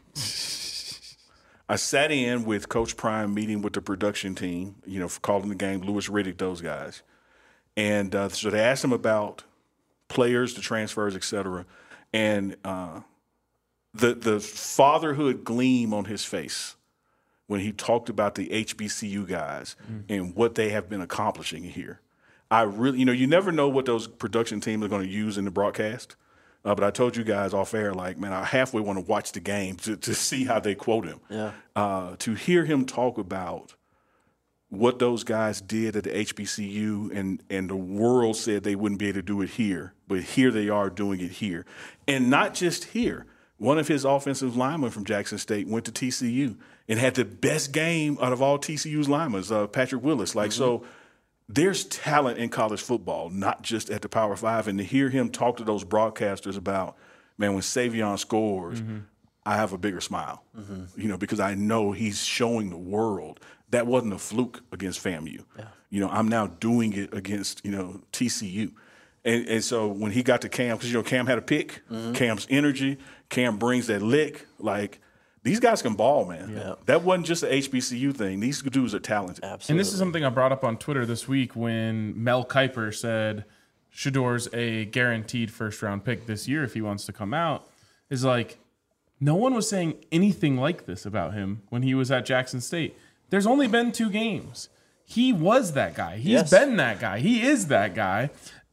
I sat in with Coach Prime meeting with the production team, you know, for calling the game, Lewis Riddick, those guys. And so they asked him about players, the transfers, et cetera. And the fatherhood gleam on his face when he talked about the HBCU guys and what they have been accomplishing here. I really, you know, you never know what those production teams are going to use in the broadcast. But I told you guys off air, like, man, I halfway want to watch the game to see how they quote him. Yeah. To hear him talk about what those guys did at the HBCU and the world said they wouldn't be able to do it here, but here they are doing it here. And not just here. One of his offensive linemen from Jackson State went to TCU and had the best game out of all TCU's linemen, Patrick Willis. Like, so there's talent in college football, not just at the Power Five. And to hear him talk to those broadcasters about, man, when Savion scores, I have a bigger smile, you know, because I know he's showing the world that wasn't a fluke against FAMU. Yeah. You know, I'm now doing it against, you know, TCU. And so when he got to Cam, because, you know, Cam had a pick, Cam's energy, Cam brings that lick, like, these guys can ball, man. Yeah. That wasn't just an HBCU thing. These dudes are talented. Absolutely. And this is something I brought up on Twitter this week when Mel Kiper said Shedor's a guaranteed first-round pick this year if he wants to come out. Is like, no one was saying anything like this about him when he was at Jackson State. There's only been 2 games. He was that guy. He's been that guy. He is that guy.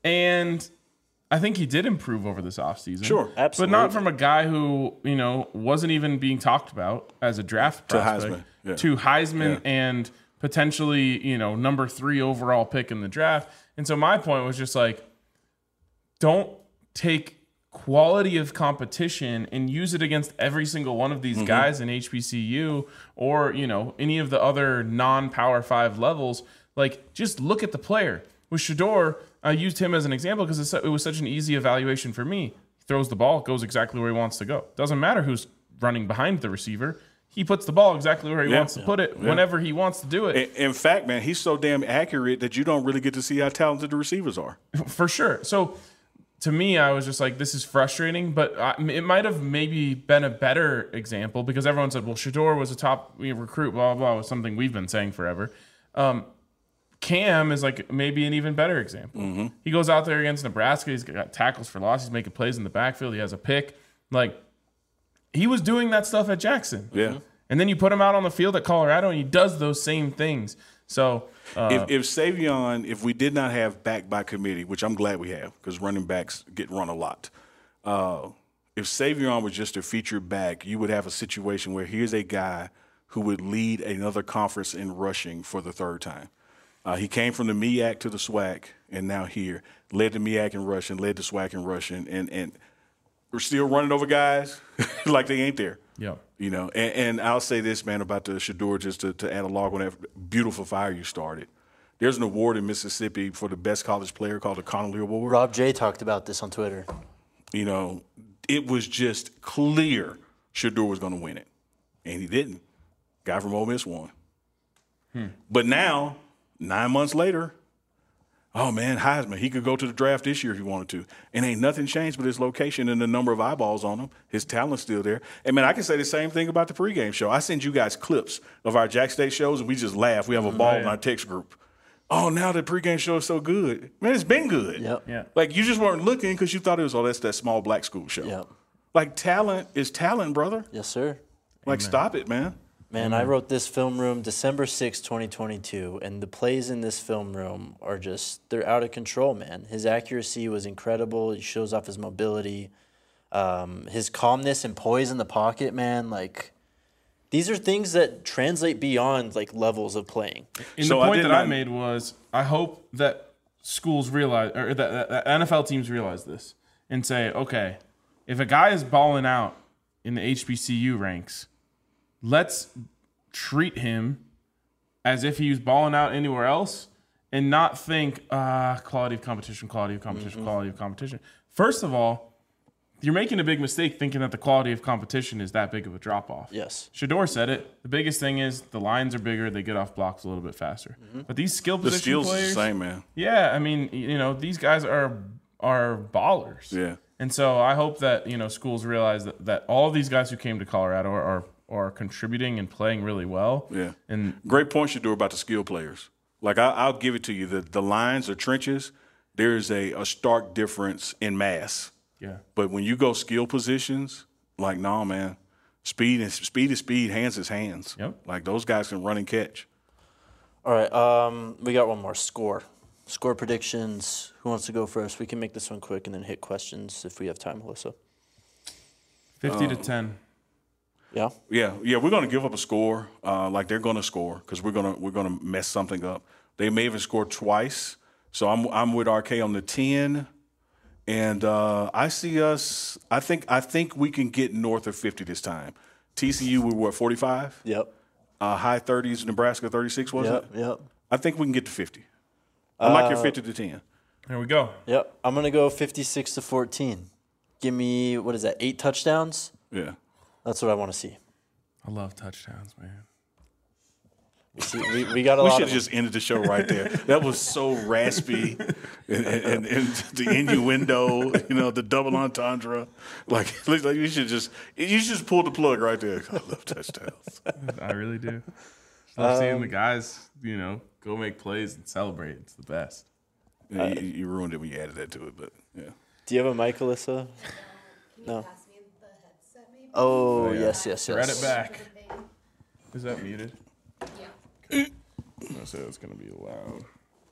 And I think he did improve over this offseason. Sure. Absolutely. But not from a guy who, you know, wasn't even being talked about as a draft prospect. Heisman. Yeah. To Heisman Yeah. and potentially, you know, number 3 overall pick in the draft. And so my point was just like, don't take quality of competition and use it against every single one of these guys in HBCU or, you know, any of the other non-Power 5 levels. Like, just look at the player. With Shedor, I used him as an example because it was such an easy evaluation for me. He throws the ball, goes exactly where he wants to go. Doesn't matter who's running behind the receiver. He puts the ball exactly where he wants to put it whenever he wants to do it. In fact, man, he's so damn accurate that you don't really get to see how talented the receivers are. For sure. So to me, I was just like, this is frustrating, but it might have maybe been a better example because everyone said, well, Shedor was a top recruit, blah, blah, blah, was something we've been saying forever. Cam is like maybe an even better example. He goes out there against Nebraska. He's got tackles for loss. He's making plays in the backfield. He has a pick. Like, he was doing that stuff at Jackson. Yeah. And then you put him out on the field at Colorado, and he does those same things. So If Savion, if we did not have back by committee, which I'm glad we have because running backs get run a lot. If Savion was just a featured back, you would have a situation where here's a guy who would lead another conference in rushing for the 3rd time. He came from the MEAC to the SWAC, and now here. Led the MEAC in rushing, led the SWAC in rushing, and we're still running over guys like they ain't there. yeah. You know, and I'll say this, man, about the Shedor, just to add a log on that beautiful fire you started. There's an award in Mississippi for the best college player called the Connolly Award. Rob J talked about this on Twitter. You know, it was just clear Shedor was going to win it, and he didn't. Guy from Ole Miss won. But now, 9 months later, Oh, man, Heisman, he could go to the draft this year if he wanted to. And ain't nothing changed but his location and the number of eyeballs on him. His talent's still there. And, man, I can say the same thing about the pregame show. I send you guys clips of our Jack State shows, and we just laugh. We have a ball in our text group. Oh, now the pregame show is so good. Man, it's been good. Yep. Yeah. Like, you just weren't looking because you thought it was, that's that small black school show. Yep. Like, talent is talent, brother. Yes, sir. Like, stop it, man. Man, I wrote this film room December 6, 2022, and the plays in this film room are just, they're out of control, man. His accuracy was incredible. He shows off his mobility. His calmness and poise in the pocket, man, like, these are things that translate beyond, like, levels of playing. And So the I point did that I not- made was I hope that schools realize, or that NFL teams realize this and say, okay, if a guy is balling out in the HBCU ranks, let's treat him as if he was balling out anywhere else and not think, quality of competition, quality of competition, quality of competition. First of all, you're making a big mistake thinking that the quality of competition is that big of a drop-off. Yes. Shador said it. The biggest thing is the lines are bigger. They get off blocks a little bit faster. But these skill The position skills players, is the same, man. yeah, I mean, these guys are ballers. Yeah. And so I hope that, schools realize that all of these guys who came to Colorado are contributing and playing really well. Yeah. And Great point, Shador, about the skill players. Like, I'll give it to you. The lines or trenches, there's a stark difference in mass. yeah. But when you go skill positions, like, no, man, speed is speed, hands is hands. Yep. Like, those guys can run and catch. All right, we got one more. Score predictions. Who wants to go first? We can make this one quick and then hit questions if we have time, Melissa. 50-10. Yeah? Yeah, we're going to give up a score. Like, they're going to score because we're gonna mess something up. They may even score twice. So I'm with RK on the 10. And I see us. I think we can get north of 50 this time. TCU, we were 45. Yep. High 30s. Nebraska 36 was it? Yep. I think we can get to 50. I like your 50 to 10. There we go. Yep. I'm going to go 56-14. Give me, 8 touchdowns? Yeah. That's what I want to see. I love touchdowns, man. We got a We lot should of have just ended the show right there. That was so raspy, and the innuendo, the double entendre. Like you should just pull the plug right there. I love touchdowns. I really do. Love seeing the guys, go make plays and celebrate. It's the best. Yeah, you ruined it when you added that to it, but yeah. Do you have a mic, Alyssa? No. Pass me the headset, maybe? Oh, yeah. yes. Thread it back. Thing. Is that muted? Yeah. I said it's going to be loud.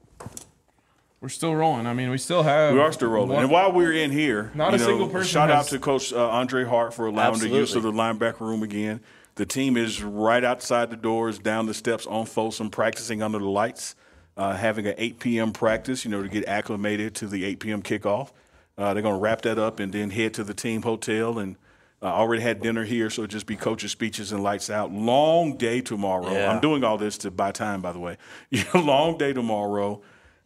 We're still rolling. I mean, we still have. We are still rolling. And while we're in here, Not a single person shout out has- to Coach Andre Hart for allowing the use of the Absolutely. linebacker room again. The team is right outside the doors, down the steps on Folsom, practicing under the lights, having an 8 p.m. practice, to get acclimated to the 8 p.m. kickoff. They're going to wrap that up and then head to the team hotel and already had dinner here, so it'll just be coaches' speeches and lights out. Long day tomorrow. Yeah. I'm doing all this to buy time, by the way. Long day tomorrow.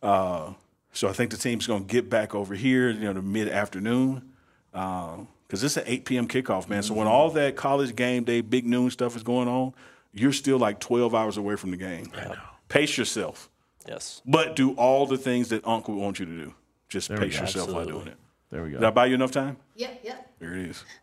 So I think the team's going to get back over here, the mid-afternoon, because it's an 8 p.m. kickoff, man. So when all that college game day, big noon stuff is going on, you're still like 12 hours away from the game. I know. Pace yourself, Yes. but do all the things that Uncle wants you to do. Just we pace go. yourself while Absolutely. doing it. There we go. Did I buy you enough time? Yep. There it is.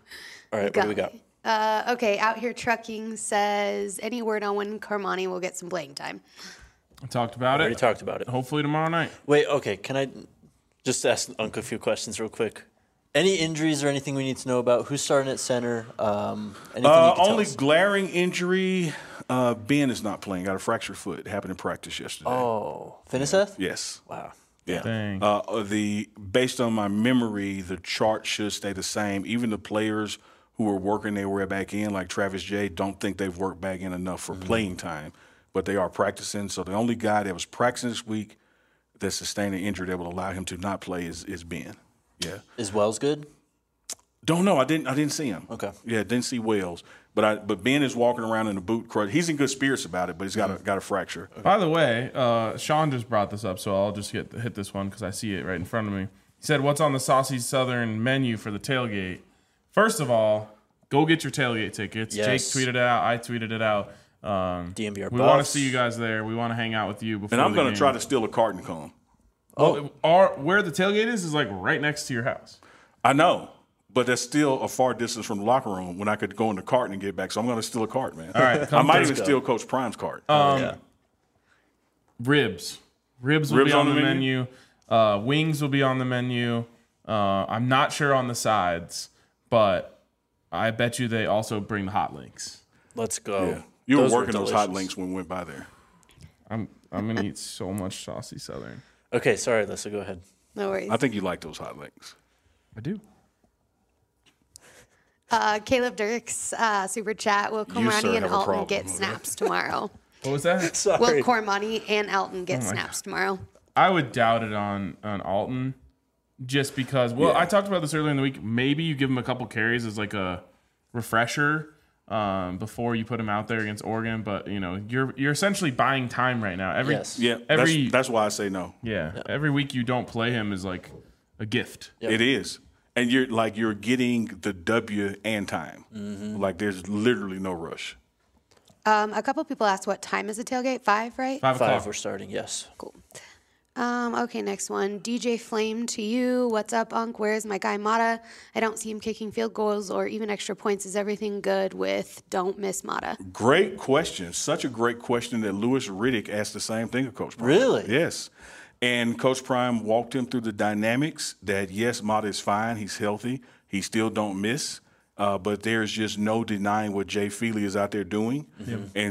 All right, what do we got? Okay, Out Here Trucking says, any word on when Carmani will get some playing time? I talked about Already it. talked about it. Hopefully tomorrow night. Wait, okay. Can I just ask Uncle a few questions real quick? Any injuries or anything we need to know about? Who's starting at center? Anything you can tell Only us? glaring injury. Ben is not playing. Got a fractured foot. It happened in practice yesterday. Oh, Finiseth? Yes. Wow. Yeah. Dang. Based on my memory, the chart should stay the same. Even the players who were working their way back in, like Travis J, don't think they've worked back in enough for playing time, but they are practicing. So the only guy that was practicing this week that sustained an injury that will allow him to not play is Ben. Yeah. Is Wells good? Don't know. I didn't see him. Okay. Yeah, didn't see Wells. But Ben is walking around in a boot crutch. He's in good spirits about it, but he's got a fracture. By the way, Sean just brought this up, so I'll just hit this one because I see it right in front of me. He said, what's on the Saucy Southern menu for the tailgate? First of all, go get your tailgate tickets. Yes. Jake tweeted it out. I tweeted it out. DMVR We want to Buffs. see you guys there. We want to hang out with you before And I'm going to try to steal a cart and come. Well, where the tailgate is like right next to your house. I know, but that's still a far distance from the locker room when I could go in the cart and get back. So I'm going to steal a cart, man. All right, I might even steal Coach Prime's cart. Yeah. Ribs will be on the menu. Wings will be on the menu. I'm not sure on the sides, but I bet you they also bring the hot links. Let's go. Yeah. You were Those working those hot delicious. links when we went by there. I'm gonna eat so much saucy Southern. Okay, sorry, Alyssa, go ahead. No worries. I think you like those hot links. I do. Caleb Dirks, super chat. Will sir, Cormani and have a Alton problem get with snaps tomorrow? What was that? Sorry. Will Cormani and Alton get my snaps tomorrow? I would doubt it on Alton, just because. Well, Yeah. I talked about this earlier in the week. Maybe you give him a couple carries as like a refresher before you put him out there against Oregon. But you're essentially buying time right now. Yes. Yeah, that's why I say no. Every week you don't play him is like a gift. Yep. It is. And you're getting the W and time. Like there's literally no rush. A couple people asked what time is the tailgate? 5, right? 5 o'clock. 5, we're starting, yes. Cool. Okay, next one. DJ Flame to you. What's up, Unc? Where's my guy Mata? I don't see him kicking field goals or even extra points. Is everything good with don't miss Mata? Great question. Such a great question that Lewis Riddick asked the same thing of Coach Prime. Really? Yes. And Coach Prime walked him through the dynamics that, yes, Mata is fine. He's healthy. He still don't miss. But there's just no denying what Jay Feely is out there doing. And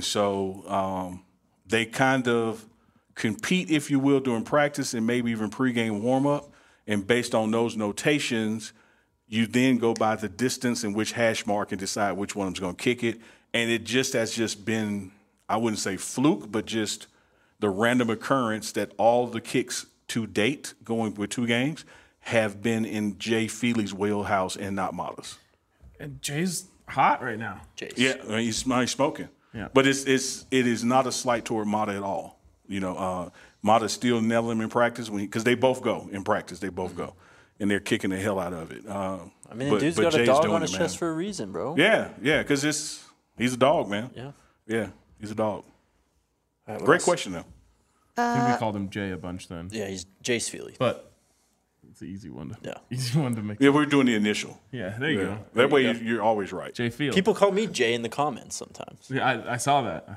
so they kind of compete, if you will, during practice and maybe even pregame warm-up. And based on those notations, you then go by the distance and which hash mark and decide which one is going to kick it. And it just has just been, I wouldn't say fluke, but just the random occurrence that all the kicks to date, going with 2 games, have been in Jay Feely's wheelhouse and not Mata's. And Jay's hot right now. Jace. Yeah, I mean, he's smoking. Yeah. But it is not a slight toward Mata at all. Mata's still nailing him in practice because they both go in practice. They both go, and they're kicking the hell out of it. I mean, the dude's got a Jay's dog doing on his it, chest man. for a reason, bro. Yeah, because he's a dog, man. Yeah. He's a dog. All right, what Great else? question though. I think we called him Jay a bunch then. Yeah, he's Jace Feely. But it's an easy one to Yeah. easy one to make. Yeah, we're doing the initial. Yeah, there you go. That way you're always right. Jay Field. People call me Jay in the comments sometimes. Yeah, I saw that.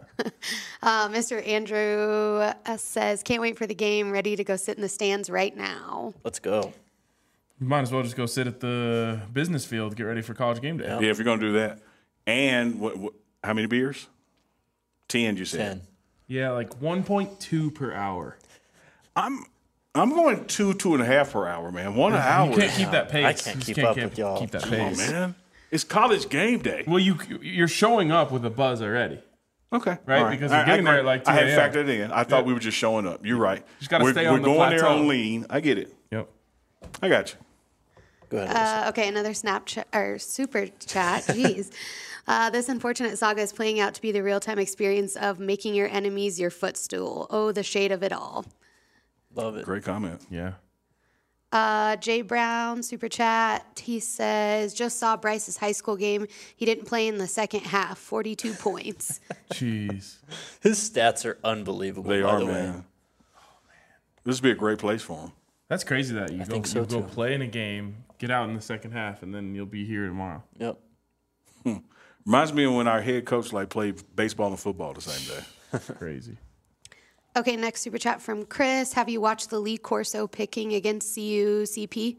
Mr. Andrew says, can't wait for the game. Ready to go sit in the stands right now. Let's go. You might as well just go sit at the business field, get ready for college game day. Yeah, if you're gonna do that. And what how many beers? 10, you said. 10. Yeah, like 1.2 per hour. I'm going 2.5 per hour, man. 1 hour. You can't keep that pace. I can't You keep up with y'all. Keep that Come on, pace. man. It's college game day. Well, you're showing up with a buzz already. Okay. Right? All Because you're getting there at like 2 I had a.m. factored it in. I thought we were just showing up. You're right. Just gotta stay on the We're going there plateau. on lean. I get it. Yep. I got you. Go ahead. Okay, another Snapchat or super chat. Jeez. This unfortunate saga is playing out to be the real-time experience of making your enemies your footstool. Oh, the shade of it all. Love it. Great comment. Yeah. Jay Brown, super chat. He says, just saw Bryce's high school game. He didn't play in the second half. 42 points. Jeez. His stats are unbelievable. They by are, the man. way. This would be a great place for him. That's crazy that you think so, go too. play in a game, get out in the second half, and then you'll be here tomorrow. Yep. Reminds me of when our head coach played baseball and football the same day. Crazy. Okay, next super chat from Chris. Have you watched the Lee Corso picking against CP?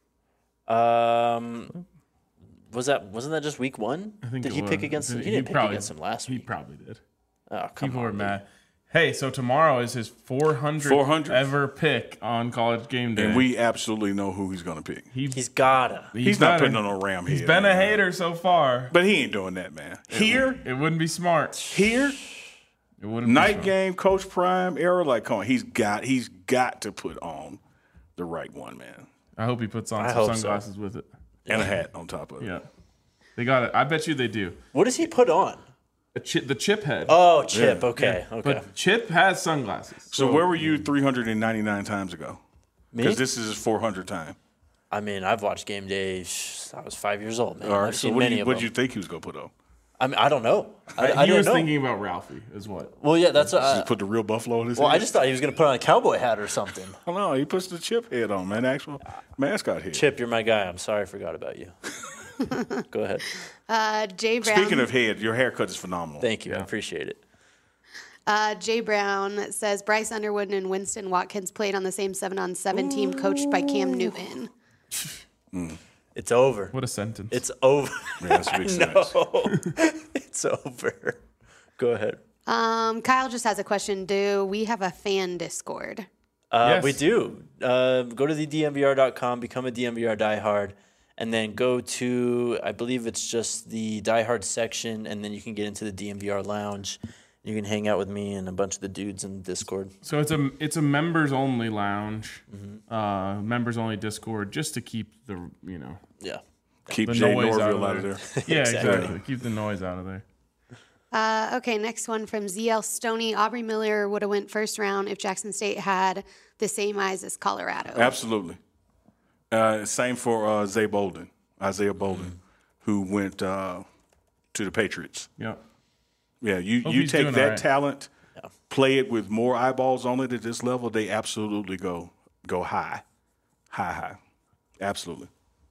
Wasn't that just week 1? I think Did it he was. pick against him? He didn't pick against him last He week. probably did. Oh, come People on. were dude. mad. Hey, so tomorrow is his 400th ever pick on College Game Day. And we absolutely know who he's going to pick. He's gotta. He's not better. putting on a ram He's head, been a man. hater so far. But he ain't doing that, man. Here, It wouldn't be smart. here, It wouldn't be night smart. game, Coach Prime era, like, come on, he's got to put on the right one, man, I hope he puts on I some hope so. sunglasses with it. and a hat on top of it. Yeah. They got it. I bet you they do. What does he put on? The chip head. Oh, Chip. Yeah. Okay. Okay. But Chip has sunglasses. So where were you 399 times ago? Me? Because this is his 400th time. I mean, I've watched game day. I was 5 years old, man. All right. I've So seen what many do of you them. think he was going to put on? I mean, I don't know. I He don't was know. thinking about Ralphie, is what. Well, yeah, that's. Just put the real buffalo in his Well, head. I just thought he was going to put on a cowboy hat or something. I don't know. He puts the chip head on, man. The actual mascot head. Chip, you're my guy. I'm sorry I forgot about you. Go ahead. Jay Brown. Speaking of head, your haircut is phenomenal. Thank you. I appreciate it. Jay Brown says Bryce Underwood and Winston Watkins played on the same 7-on-7 team coached by Cam Newton. It's over. What a sentence. It's over. Yeah, that's a big sentence. It's over. Go ahead. Kyle just has a question. Do we have a fan Discord? Yes. We do. Go to the DMVR.com, become a DMVR diehard, and then go to, I believe it's just the diehard section, and then you can get into the DMVR lounge. You can hang out with me and a bunch of the dudes in Discord. So it's a members only lounge, Mm-hmm. members only Discord, just to keep the Yeah. Keep the Jay noise Norville out out of there. Yeah, Exactly. exactly. Keep the noise out of there. Okay, next one from ZL Stoney. Aubrey Miller would have went first round if Jackson State had the same eyes as Colorado. Absolutely. Same for Isaiah Bolden, who went to the Patriots. Yeah. Yeah, you he's take doing that all right. talent, play it with more eyeballs on it at this level, they absolutely go high. Absolutely.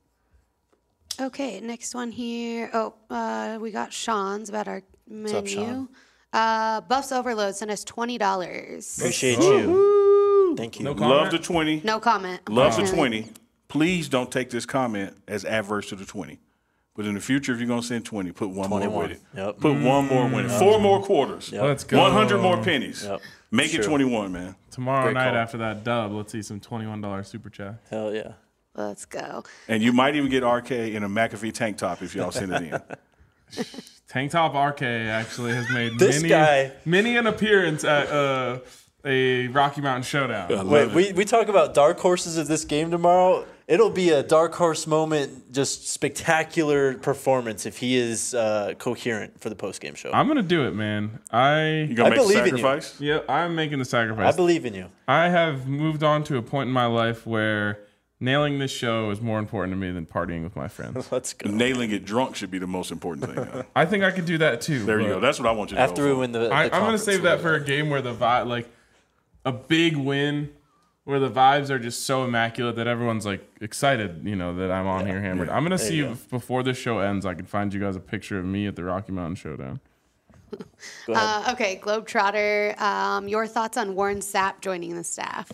Okay, next one here. Oh, we got Sean's about our menu. up, Sean? Buffs Overload sent us $20. Appreciate you. Thank you. No Love comment? the 20. No comment. Love the unfortunately. 20. Please don't take this comment as adverse to the 20. But in the future, if you're going to send 20, put one more 21. with it. Yep. Put one more with it. 4 more quarters. Let's go. 100 more pennies. Yep. Make it Sure. 21, man. Tomorrow Great night call. after that dub, let's see some $21 super chat. Hell yeah. Let's go. And you might even get RK in a McAfee tank top if y'all send it in. Tank Top RK actually has made This guy- many an appearance at a Rocky Mountain Showdown. Wait, we talk about dark horses of this game tomorrow. It'll be a dark horse moment, just spectacular performance if he is coherent for the post-game show. I'm gonna do it, man. You going I to make a believe in you. sacrifice? Yeah, I'm making the I sacrifice. believe in you. I have moved on to a point in my life where nailing this show is more important to me than partying with my friends. Let's go. Nailing it drunk should be the most important thing. I think I could do that too. There you but go. That's what I want you to After go we for. win the I'm gonna conference, save that for a game where the vibe, like a big win, where the vibes are just so immaculate that everyone's like excited, that I'm on here hammered. I'm gonna see you go. if before this show ends, I can find you guys a picture of me at the Rocky Mountain Showdown. Go ahead. Okay, Globetrotter. Your thoughts on Warren Sapp joining the staff?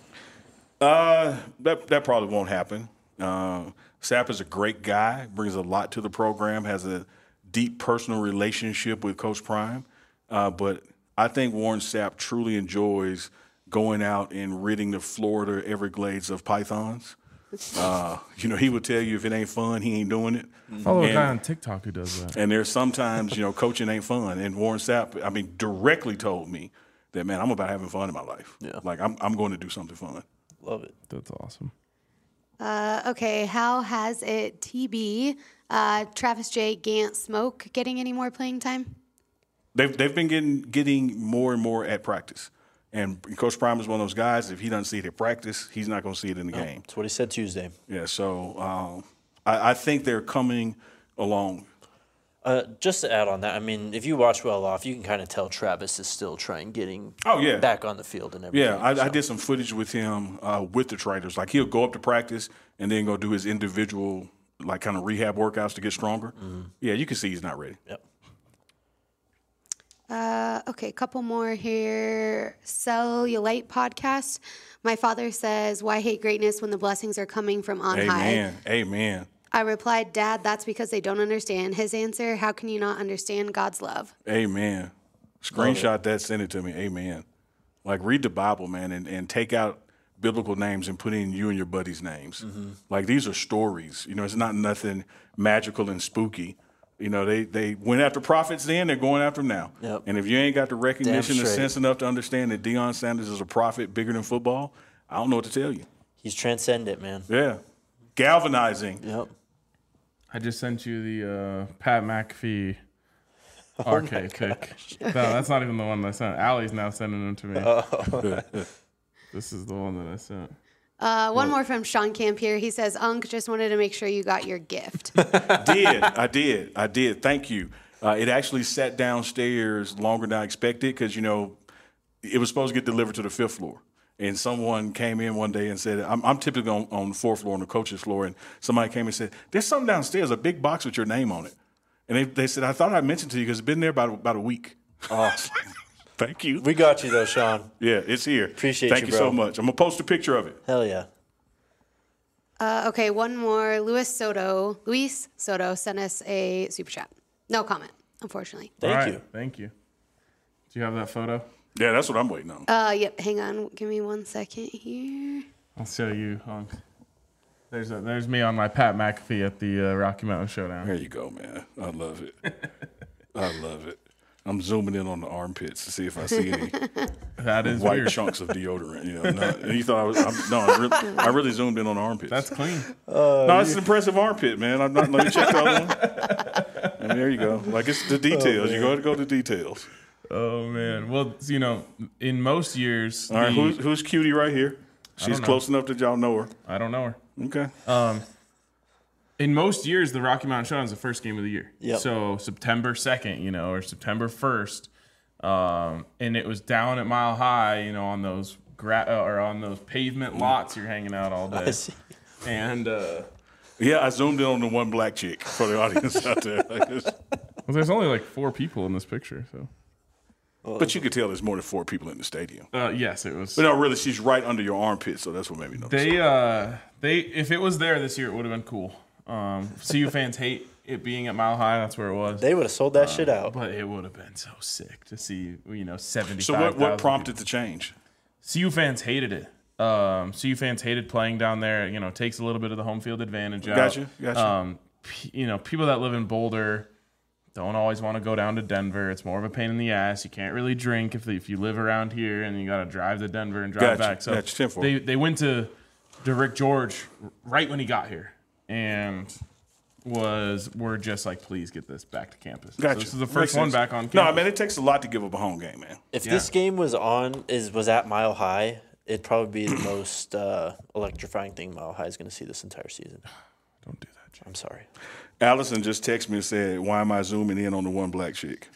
That probably won't happen. Sapp is a great guy, brings a lot to the program, has a deep personal relationship with Coach Prime. But I think Warren Sapp truly enjoys going out and ridding the Florida Everglades of pythons. He would tell you if it ain't fun, he ain't doing it. Follow a And- guy on TikTok who does that. And there's sometimes, coaching ain't fun. And Warren Sapp, directly told me that, man, I'm about having fun in my life. Yeah. Like, I'm going to do something fun. Love it. That's awesome. Okay, how has it TB? Travis J, Gant, Smoke getting any more playing time? They've been getting more and more at practice. And Coach Prime is one of those guys, if he doesn't see it at practice, he's not going to see it in the game. That's what he said Tuesday. Yeah, so I think they're coming along. Just to add on that, if you watch Well Off, you can kind of tell Travis is still getting back on the field and everything. Yeah, I did some footage with him with the Traders. Like, he'll go up to practice and then go do his individual, like, kind of rehab workouts to get stronger. Yeah, you can see he's not ready. Yep. Okay, a couple more here. Cellulite podcast. My father says, "Why hate greatness when the blessings are coming from on high?" Amen. I replied, "Dad, that's because they don't understand." His answer, "How can you not understand God's love?" Amen. Screenshot that, send it to me. Amen. Like, read the Bible, man, and take out biblical names and put in you and your buddies' names. Like, these are stories. It's not nothing magical and spooky. They went after prophets then, they're going after them now. Yep. And if you ain't got the recognition, the straight. sense enough to understand that Deion Sanders is a prophet bigger than football, I don't know what to tell you. He's transcendent, man. Yeah. Galvanizing. Yep. I just sent you the Pat McAfee RK pic. No, that's not even the one that I sent. Allie's now sending them to me. This is the one that I sent. One more from Sean Camp here. He says, "Unc, just wanted to make sure you got your gift." I did. Thank you. It actually sat downstairs longer than I expected because, it was supposed to get delivered to the 5th floor. And someone came in one day and said, I'm typically on the 4th floor, on the coach's floor, and somebody came and said, there's something downstairs, a big box with your name on it. And they said, I thought I mentioned to you because it's been there about a week. Oh, thank you. We got you, though, Sean. Yeah, it's here. Appreciate Thank you, you bro. so much. I'm going to post a picture of it. Hell yeah. Okay, one more. Luis Soto sent us a super chat. No comment, unfortunately. Thank you. Thank you. Do you have that photo? Yeah, that's what I'm waiting on. Yep, hang on. Give me 1 second here. I'll show you. There's me on my Pat McAfee at the Rocky Mountain Showdown. There you go, man. I love it. I love it. I'm zooming in on the armpits to see if I see any That is white weird. chunks of deodorant. You thought I really zoomed in on the armpits. That's clean. No, it's an impressive armpit, man. I'm not. Let me check the other one. And there you go. Like it's the details. You got to go to details. Oh man. Well, in most years, All right, who's cutie right here? She's know. close enough that y'all know her. I don't know her. Okay. In most years, the Rocky Mountain Showdown is the first game of the year. Yep. So September 2nd, or September 1st, and it was down at Mile High, on those on those pavement lots you're hanging out all I day. see. And Yeah, I zoomed in on the one black chick for the audience out there. well, there's only like 4 people in this picture, so. But you could tell there's more than 4 people in the stadium. Yes, it was. But no, really, she's right under your armpit, so that's what made me notice. They if it was there this year, it would have been cool. CU fans hate it being at Mile High. That's where it was. They would have sold that shit out. But it would have been so sick to see, 75,000. So what prompted the change? CU fans hated it. CU fans hated playing down there. It takes a little bit of the home field advantage out. Gotcha. People that live in Boulder don't always want to go down to Denver. It's more of a pain in the ass. You can't really drink if you live around here, and you got to drive to Denver and drive back. So they went to Rick George right when he got here, and were just like, please get this back to campus. Gotcha. So this is the first one back on campus. No, I mean, it takes a lot to give up a home game, man. If this game was at Mile High, it'd probably be the most electrifying thing Mile High is going to see this entire season. Don't do that, Jay. I'm sorry. Allison just texted me and said, why am I zooming in on the one black chick?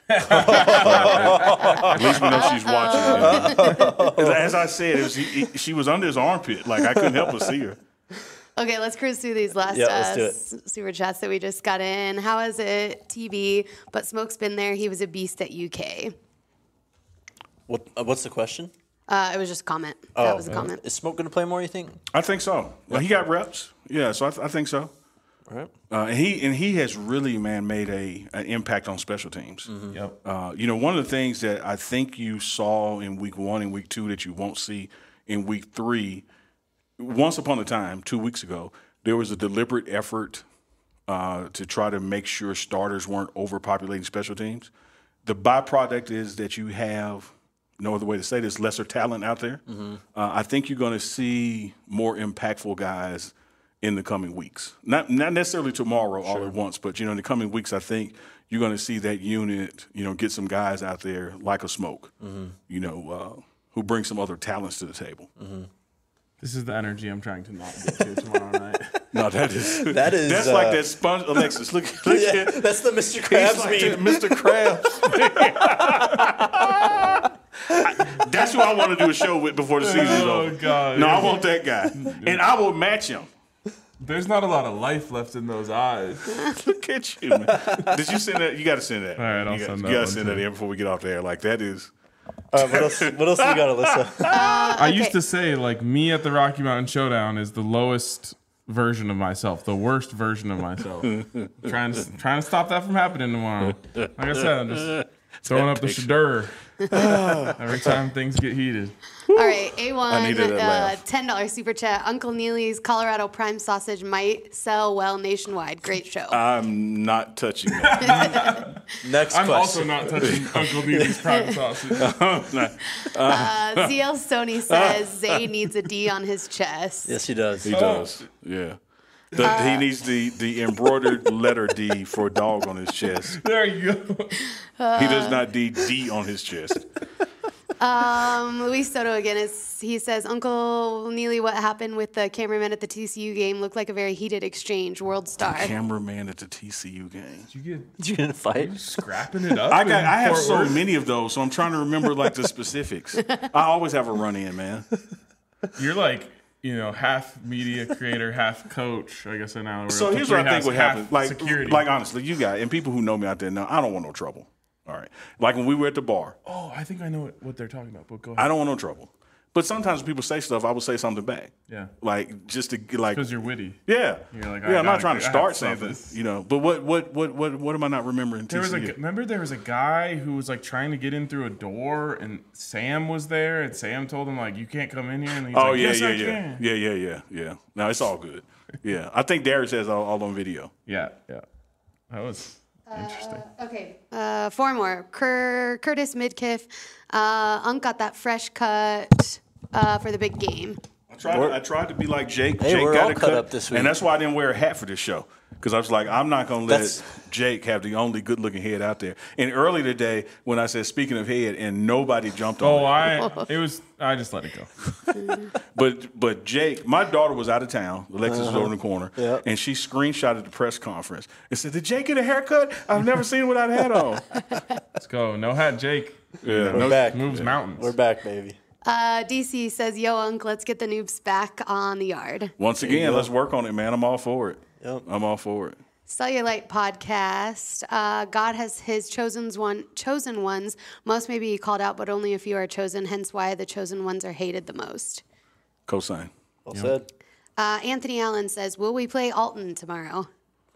At least we know she's watching. As I said, she was under his armpit. Like, I couldn't help but see her. Okay, let's cruise through these last let's do it. super chats that we just got in. How is it, TB? But Smoke's been there. He was a beast at UK. What's the question? It was just a comment. That was a comment. Is Smoke going to play more, you think? I think so. Well, he got reps. Yeah, so I think so. All right. And he has really, man, made an impact on special teams. Mm-hmm. Yep. One of the things that I think you saw in week 1 and week 2 that you won't see in week 3, once upon a time, 2 weeks ago, there was a deliberate effort to try to make sure starters weren't overpopulating special teams. The byproduct is that you have, no other way to say this, lesser talent out there. Mm-hmm. I think you're going to see more impactful guys in the coming weeks. Not necessarily tomorrow all at once, but, in the coming weeks, I think you're going to see that unit, get some guys out there like a Smoke, who bring some other talents to the table. Mm-hmm. This is the energy I'm trying to not get to tomorrow night. No, that's like that sponge. Alexis, look Yeah, that's the Mr. Krabs like meme. Mr. Krabs. That's who I want to do a show with before the season's over. God. No, I want that guy, and I will match him. There's not a lot of life left in those eyes. Look at you, man. Did you send that? You got to send that. All right, I'll send that. You got to one send too. that in before we get off the air. Like that is. What else we got, Alyssa? I used to say, me at the Rocky Mountain Showdown is the lowest version of myself, the worst version of myself. trying to stop that from happening tomorrow. Like I said, I'm just throwing up the shadur every time things get heated. All right, I needed that laugh. $10 super chat. Uncle Neely's Colorado Prime sausage might sell well nationwide. Great show. I'm not touching that. Next I'm question. also not touching Uncle Neely's prime sausage. ZL Stoney says Zay needs a D on his chest. Yes, he does. He does. Yeah. He needs the embroidered letter D for dog on his chest. There you go. He does not D on his chest. Luis Soto again he says, Uncle Neely, what happened with the cameraman at the TCU game looked like a very heated exchange. World star. Cameraman at the TCU game. Did you get in a fight? Scrapping it up. I have Fort so Worth? many of those, so I'm trying to remember like the specifics. I always have a run in, man. You're like, half media creator, half coach. I guess now. We're So up to here's what I three think would halves, happen. half security. Like honestly, you guys and people who know me out there know I don't want no trouble. All right. Like when we were at the bar, oh, I think I know what they're talking about. But go ahead. I don't want no trouble. But sometimes when people say stuff, I will say something back. Yeah. Like just to like. Because you're witty. Yeah. You're like, yeah. I'm not trying to I have start to say something. this. But what am I not remembering? Remember there was a guy who was like trying to get in through a door, and Sam was there, and Sam told him like, you can't come in here, and he's Oh like, yeah, yes, yeah, I yeah, can. yeah. No, it's all good. Yeah, I think Darius has all on video. Yeah. That was interesting. Okay, 4 more. Curtis Midkiff. Unc got that fresh cut for the big game. I tried to be like Jake. Hey, Jake we're got all a cut cut up this week. and that's why I didn't wear a hat for this show. Because I was like, I'm not going to let That's- Jake have the only good-looking head out there. And early today, when I said, speaking of head, and nobody jumped on it. I just let it go. But Jake, my daughter was out of town. Alexis was over in the corner. Yeah. And she screenshotted the press conference and said, did Jake get a haircut? I've never seen him without a hat on. Let's go. No hat, Jake. Yeah, We're back. Moves mountains. We're back, baby. DC says, yo, Unc, let's get the noobs back on the yard. Once again, let's work on it, man. I'm all for it. Yep. I'm all for it. Cellulite podcast. God has his chosen ones. Most may be called out, but only a few are chosen. Hence why the chosen ones are hated the most. Cosign. Well said. Anthony Allen says, will we play Alton tomorrow?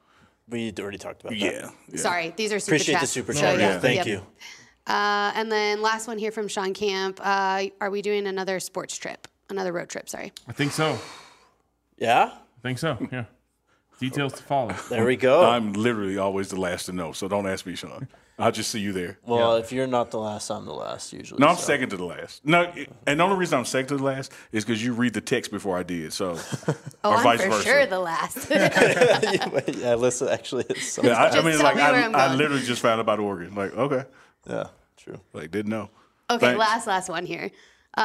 We already talked about that. Yeah. Sorry, these are super Appreciate the chats. super So, chat. yeah. Thank you. And then last one here from Sean Camp. Are we doing another sports trip? Another road trip, sorry. I think so. Yeah? Yeah. Details to follow. There we go. I'm literally always the last to know, so don't ask me, Sean. I'll just see you there. Well, if you're not the last, I'm the last usually. No, I'm so. second to the last. No, and the only reason I'm second to the last is because you read the text before I did. So, Oh, or I'm vice for versa. sure the last. Yeah, listen, actually, it's so. Yeah, I Just mean, tell like me where I'm I going. literally just found out about Oregon. Like, okay, Yeah, true. like didn't know. Okay, Thanks. last one here.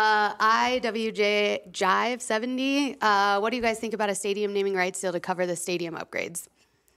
IWJ Jive 70. What do you guys think about a stadium naming rights deal to cover the stadium upgrades?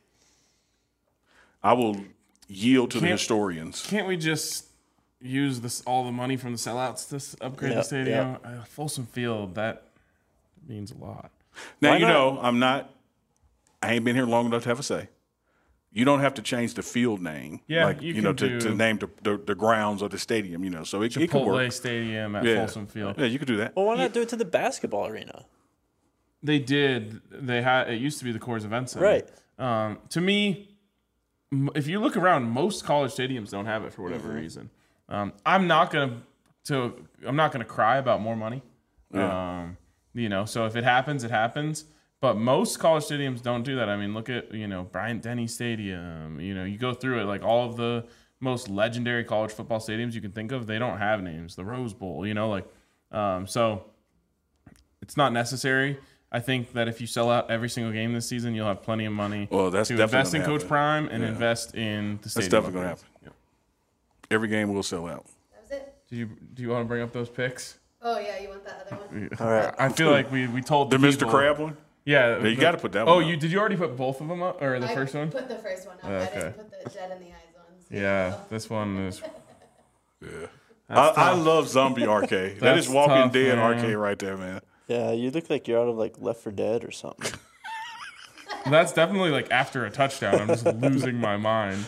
I will yield to the Can't- historians. Can't we just use all the money from the sellouts to upgrade the Yep, stadium? Folsom Field, that means a lot. Now Why you not? know I ain't been here long enough to have a say. You don't have to change the field name, Yeah, like you know, can to do- name the grounds of the stadium. You know, so it could Chipotle work. Stadium at Yeah. Folsom Field. Yeah, you could do that. Well, why not do it to the basketball arena? They did. They had. It used to be the Coors Event Center. Right. To me, if you look around, most college stadiums don't have it for whatever reason. I'm not gonna cry about more money. Yeah. So if it happens, it happens. But most college stadiums don't do that. I mean, look at Bryant-Denny Stadium. You go through it, like all of the most legendary college football stadiums you can think of, they don't have names. The Rose Bowl, so it's not necessary. I think that if you sell out every single game this season, you'll have plenty of money Well, that's to definitely invest in gonna Coach happen. Prime and Yeah. invest in the That's stadium. definitely going to upgrades. happen. Every game will sell out. That was it. Do you want to bring up those picks? Oh, yeah, you want that other one? All right. I feel like we told The the Mr. people- Crab one? Yeah, you gotta put that Oh, one up. did you already put both of them up, or the first one? put the first one up. I Okay. didn't put the Dead in the Eyes ones. Yeah, this one is. Yeah. I love Zombie RK. That is That's Walking tough, Dead man. RK right there, man. Yeah, you look like you're out of like Left 4 Dead or something. That's definitely like after a touchdown. I'm just losing my mind.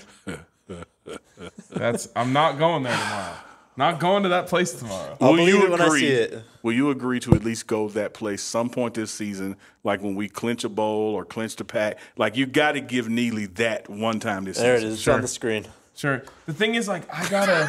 I'm not going there tomorrow. Not going to that place tomorrow. I'll believe it when I see it. Will you agree to at least go that place some point this season, like when we clinch a bowl or clinch the pack? Like you got to give Neely that one time this There it season. is. It's on the screen. Sure. The thing is, like, I gotta.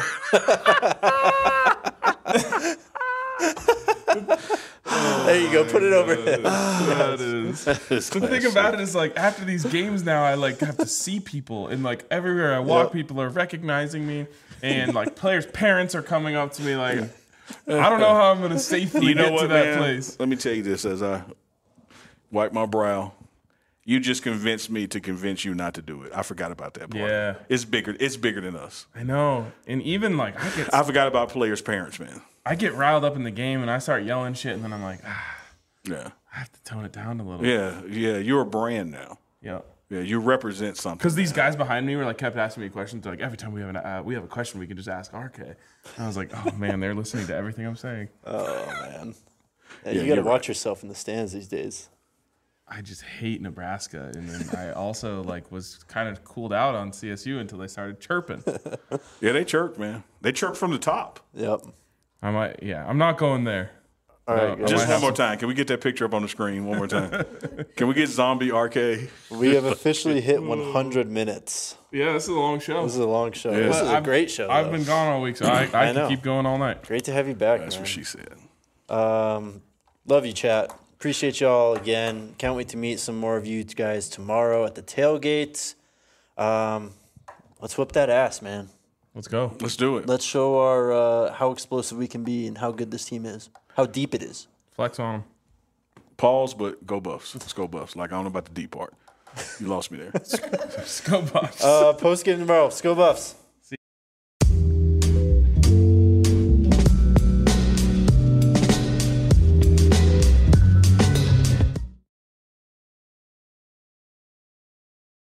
There you go. Put it over. That is. The thing about it is, like, after these games now, I like have to see people, and like everywhere I walk, Yep. people are recognizing me, and like players' parents are coming up to me, like, I don't know how I'm gonna safely You know get what, to that man? place. Let me tell you this as I wipe my brow. You just convinced me to convince you not to do it. I forgot about that part. Yeah. It's bigger. It's bigger than us. I know, and even like I forgot about players' parents, man. I get riled up in the game and I start yelling shit, and then I'm like, Yeah. I have to tone it down a little. Yeah. Yeah. You're a brand now. Yeah. Yeah. You represent something. Because these guys behind me were like kept asking me questions. They're like, every time we have a question, we can just ask RK. And I was like, oh man, they're listening to everything I'm saying. Oh man. Yeah, Yeah, you got to you're watch yourself in the stands these days. I just hate Nebraska, and then I also was kind of cooled out on CSU until they started chirping. Yeah, they chirped, man. They chirped from the top. Yep. I'm not going there. All right, guys. Just one more time. Can we get that picture up on the screen one more time? Can we get Zombie RK? We have officially hit 100 minutes. Yeah, this is a long show. This is a long show. Yeah. This is a I've- great show. I've though. been gone all week, so I I know. can keep going all night. Great to have you back, That's man. what she said. Love you, chat. Appreciate y'all again. Can't wait to meet some more of you guys tomorrow at the tailgate. Let's whip that ass, man. Let's go. Let's do it. Let's show our how explosive we can be and how good this team is, how deep it is. Flex on them. Pause, but go Buffs. Let's go Buffs. Like, I don't know about the deep part. You lost me there. Let's go, Bucks. Post game tomorrow. Let's go Buffs.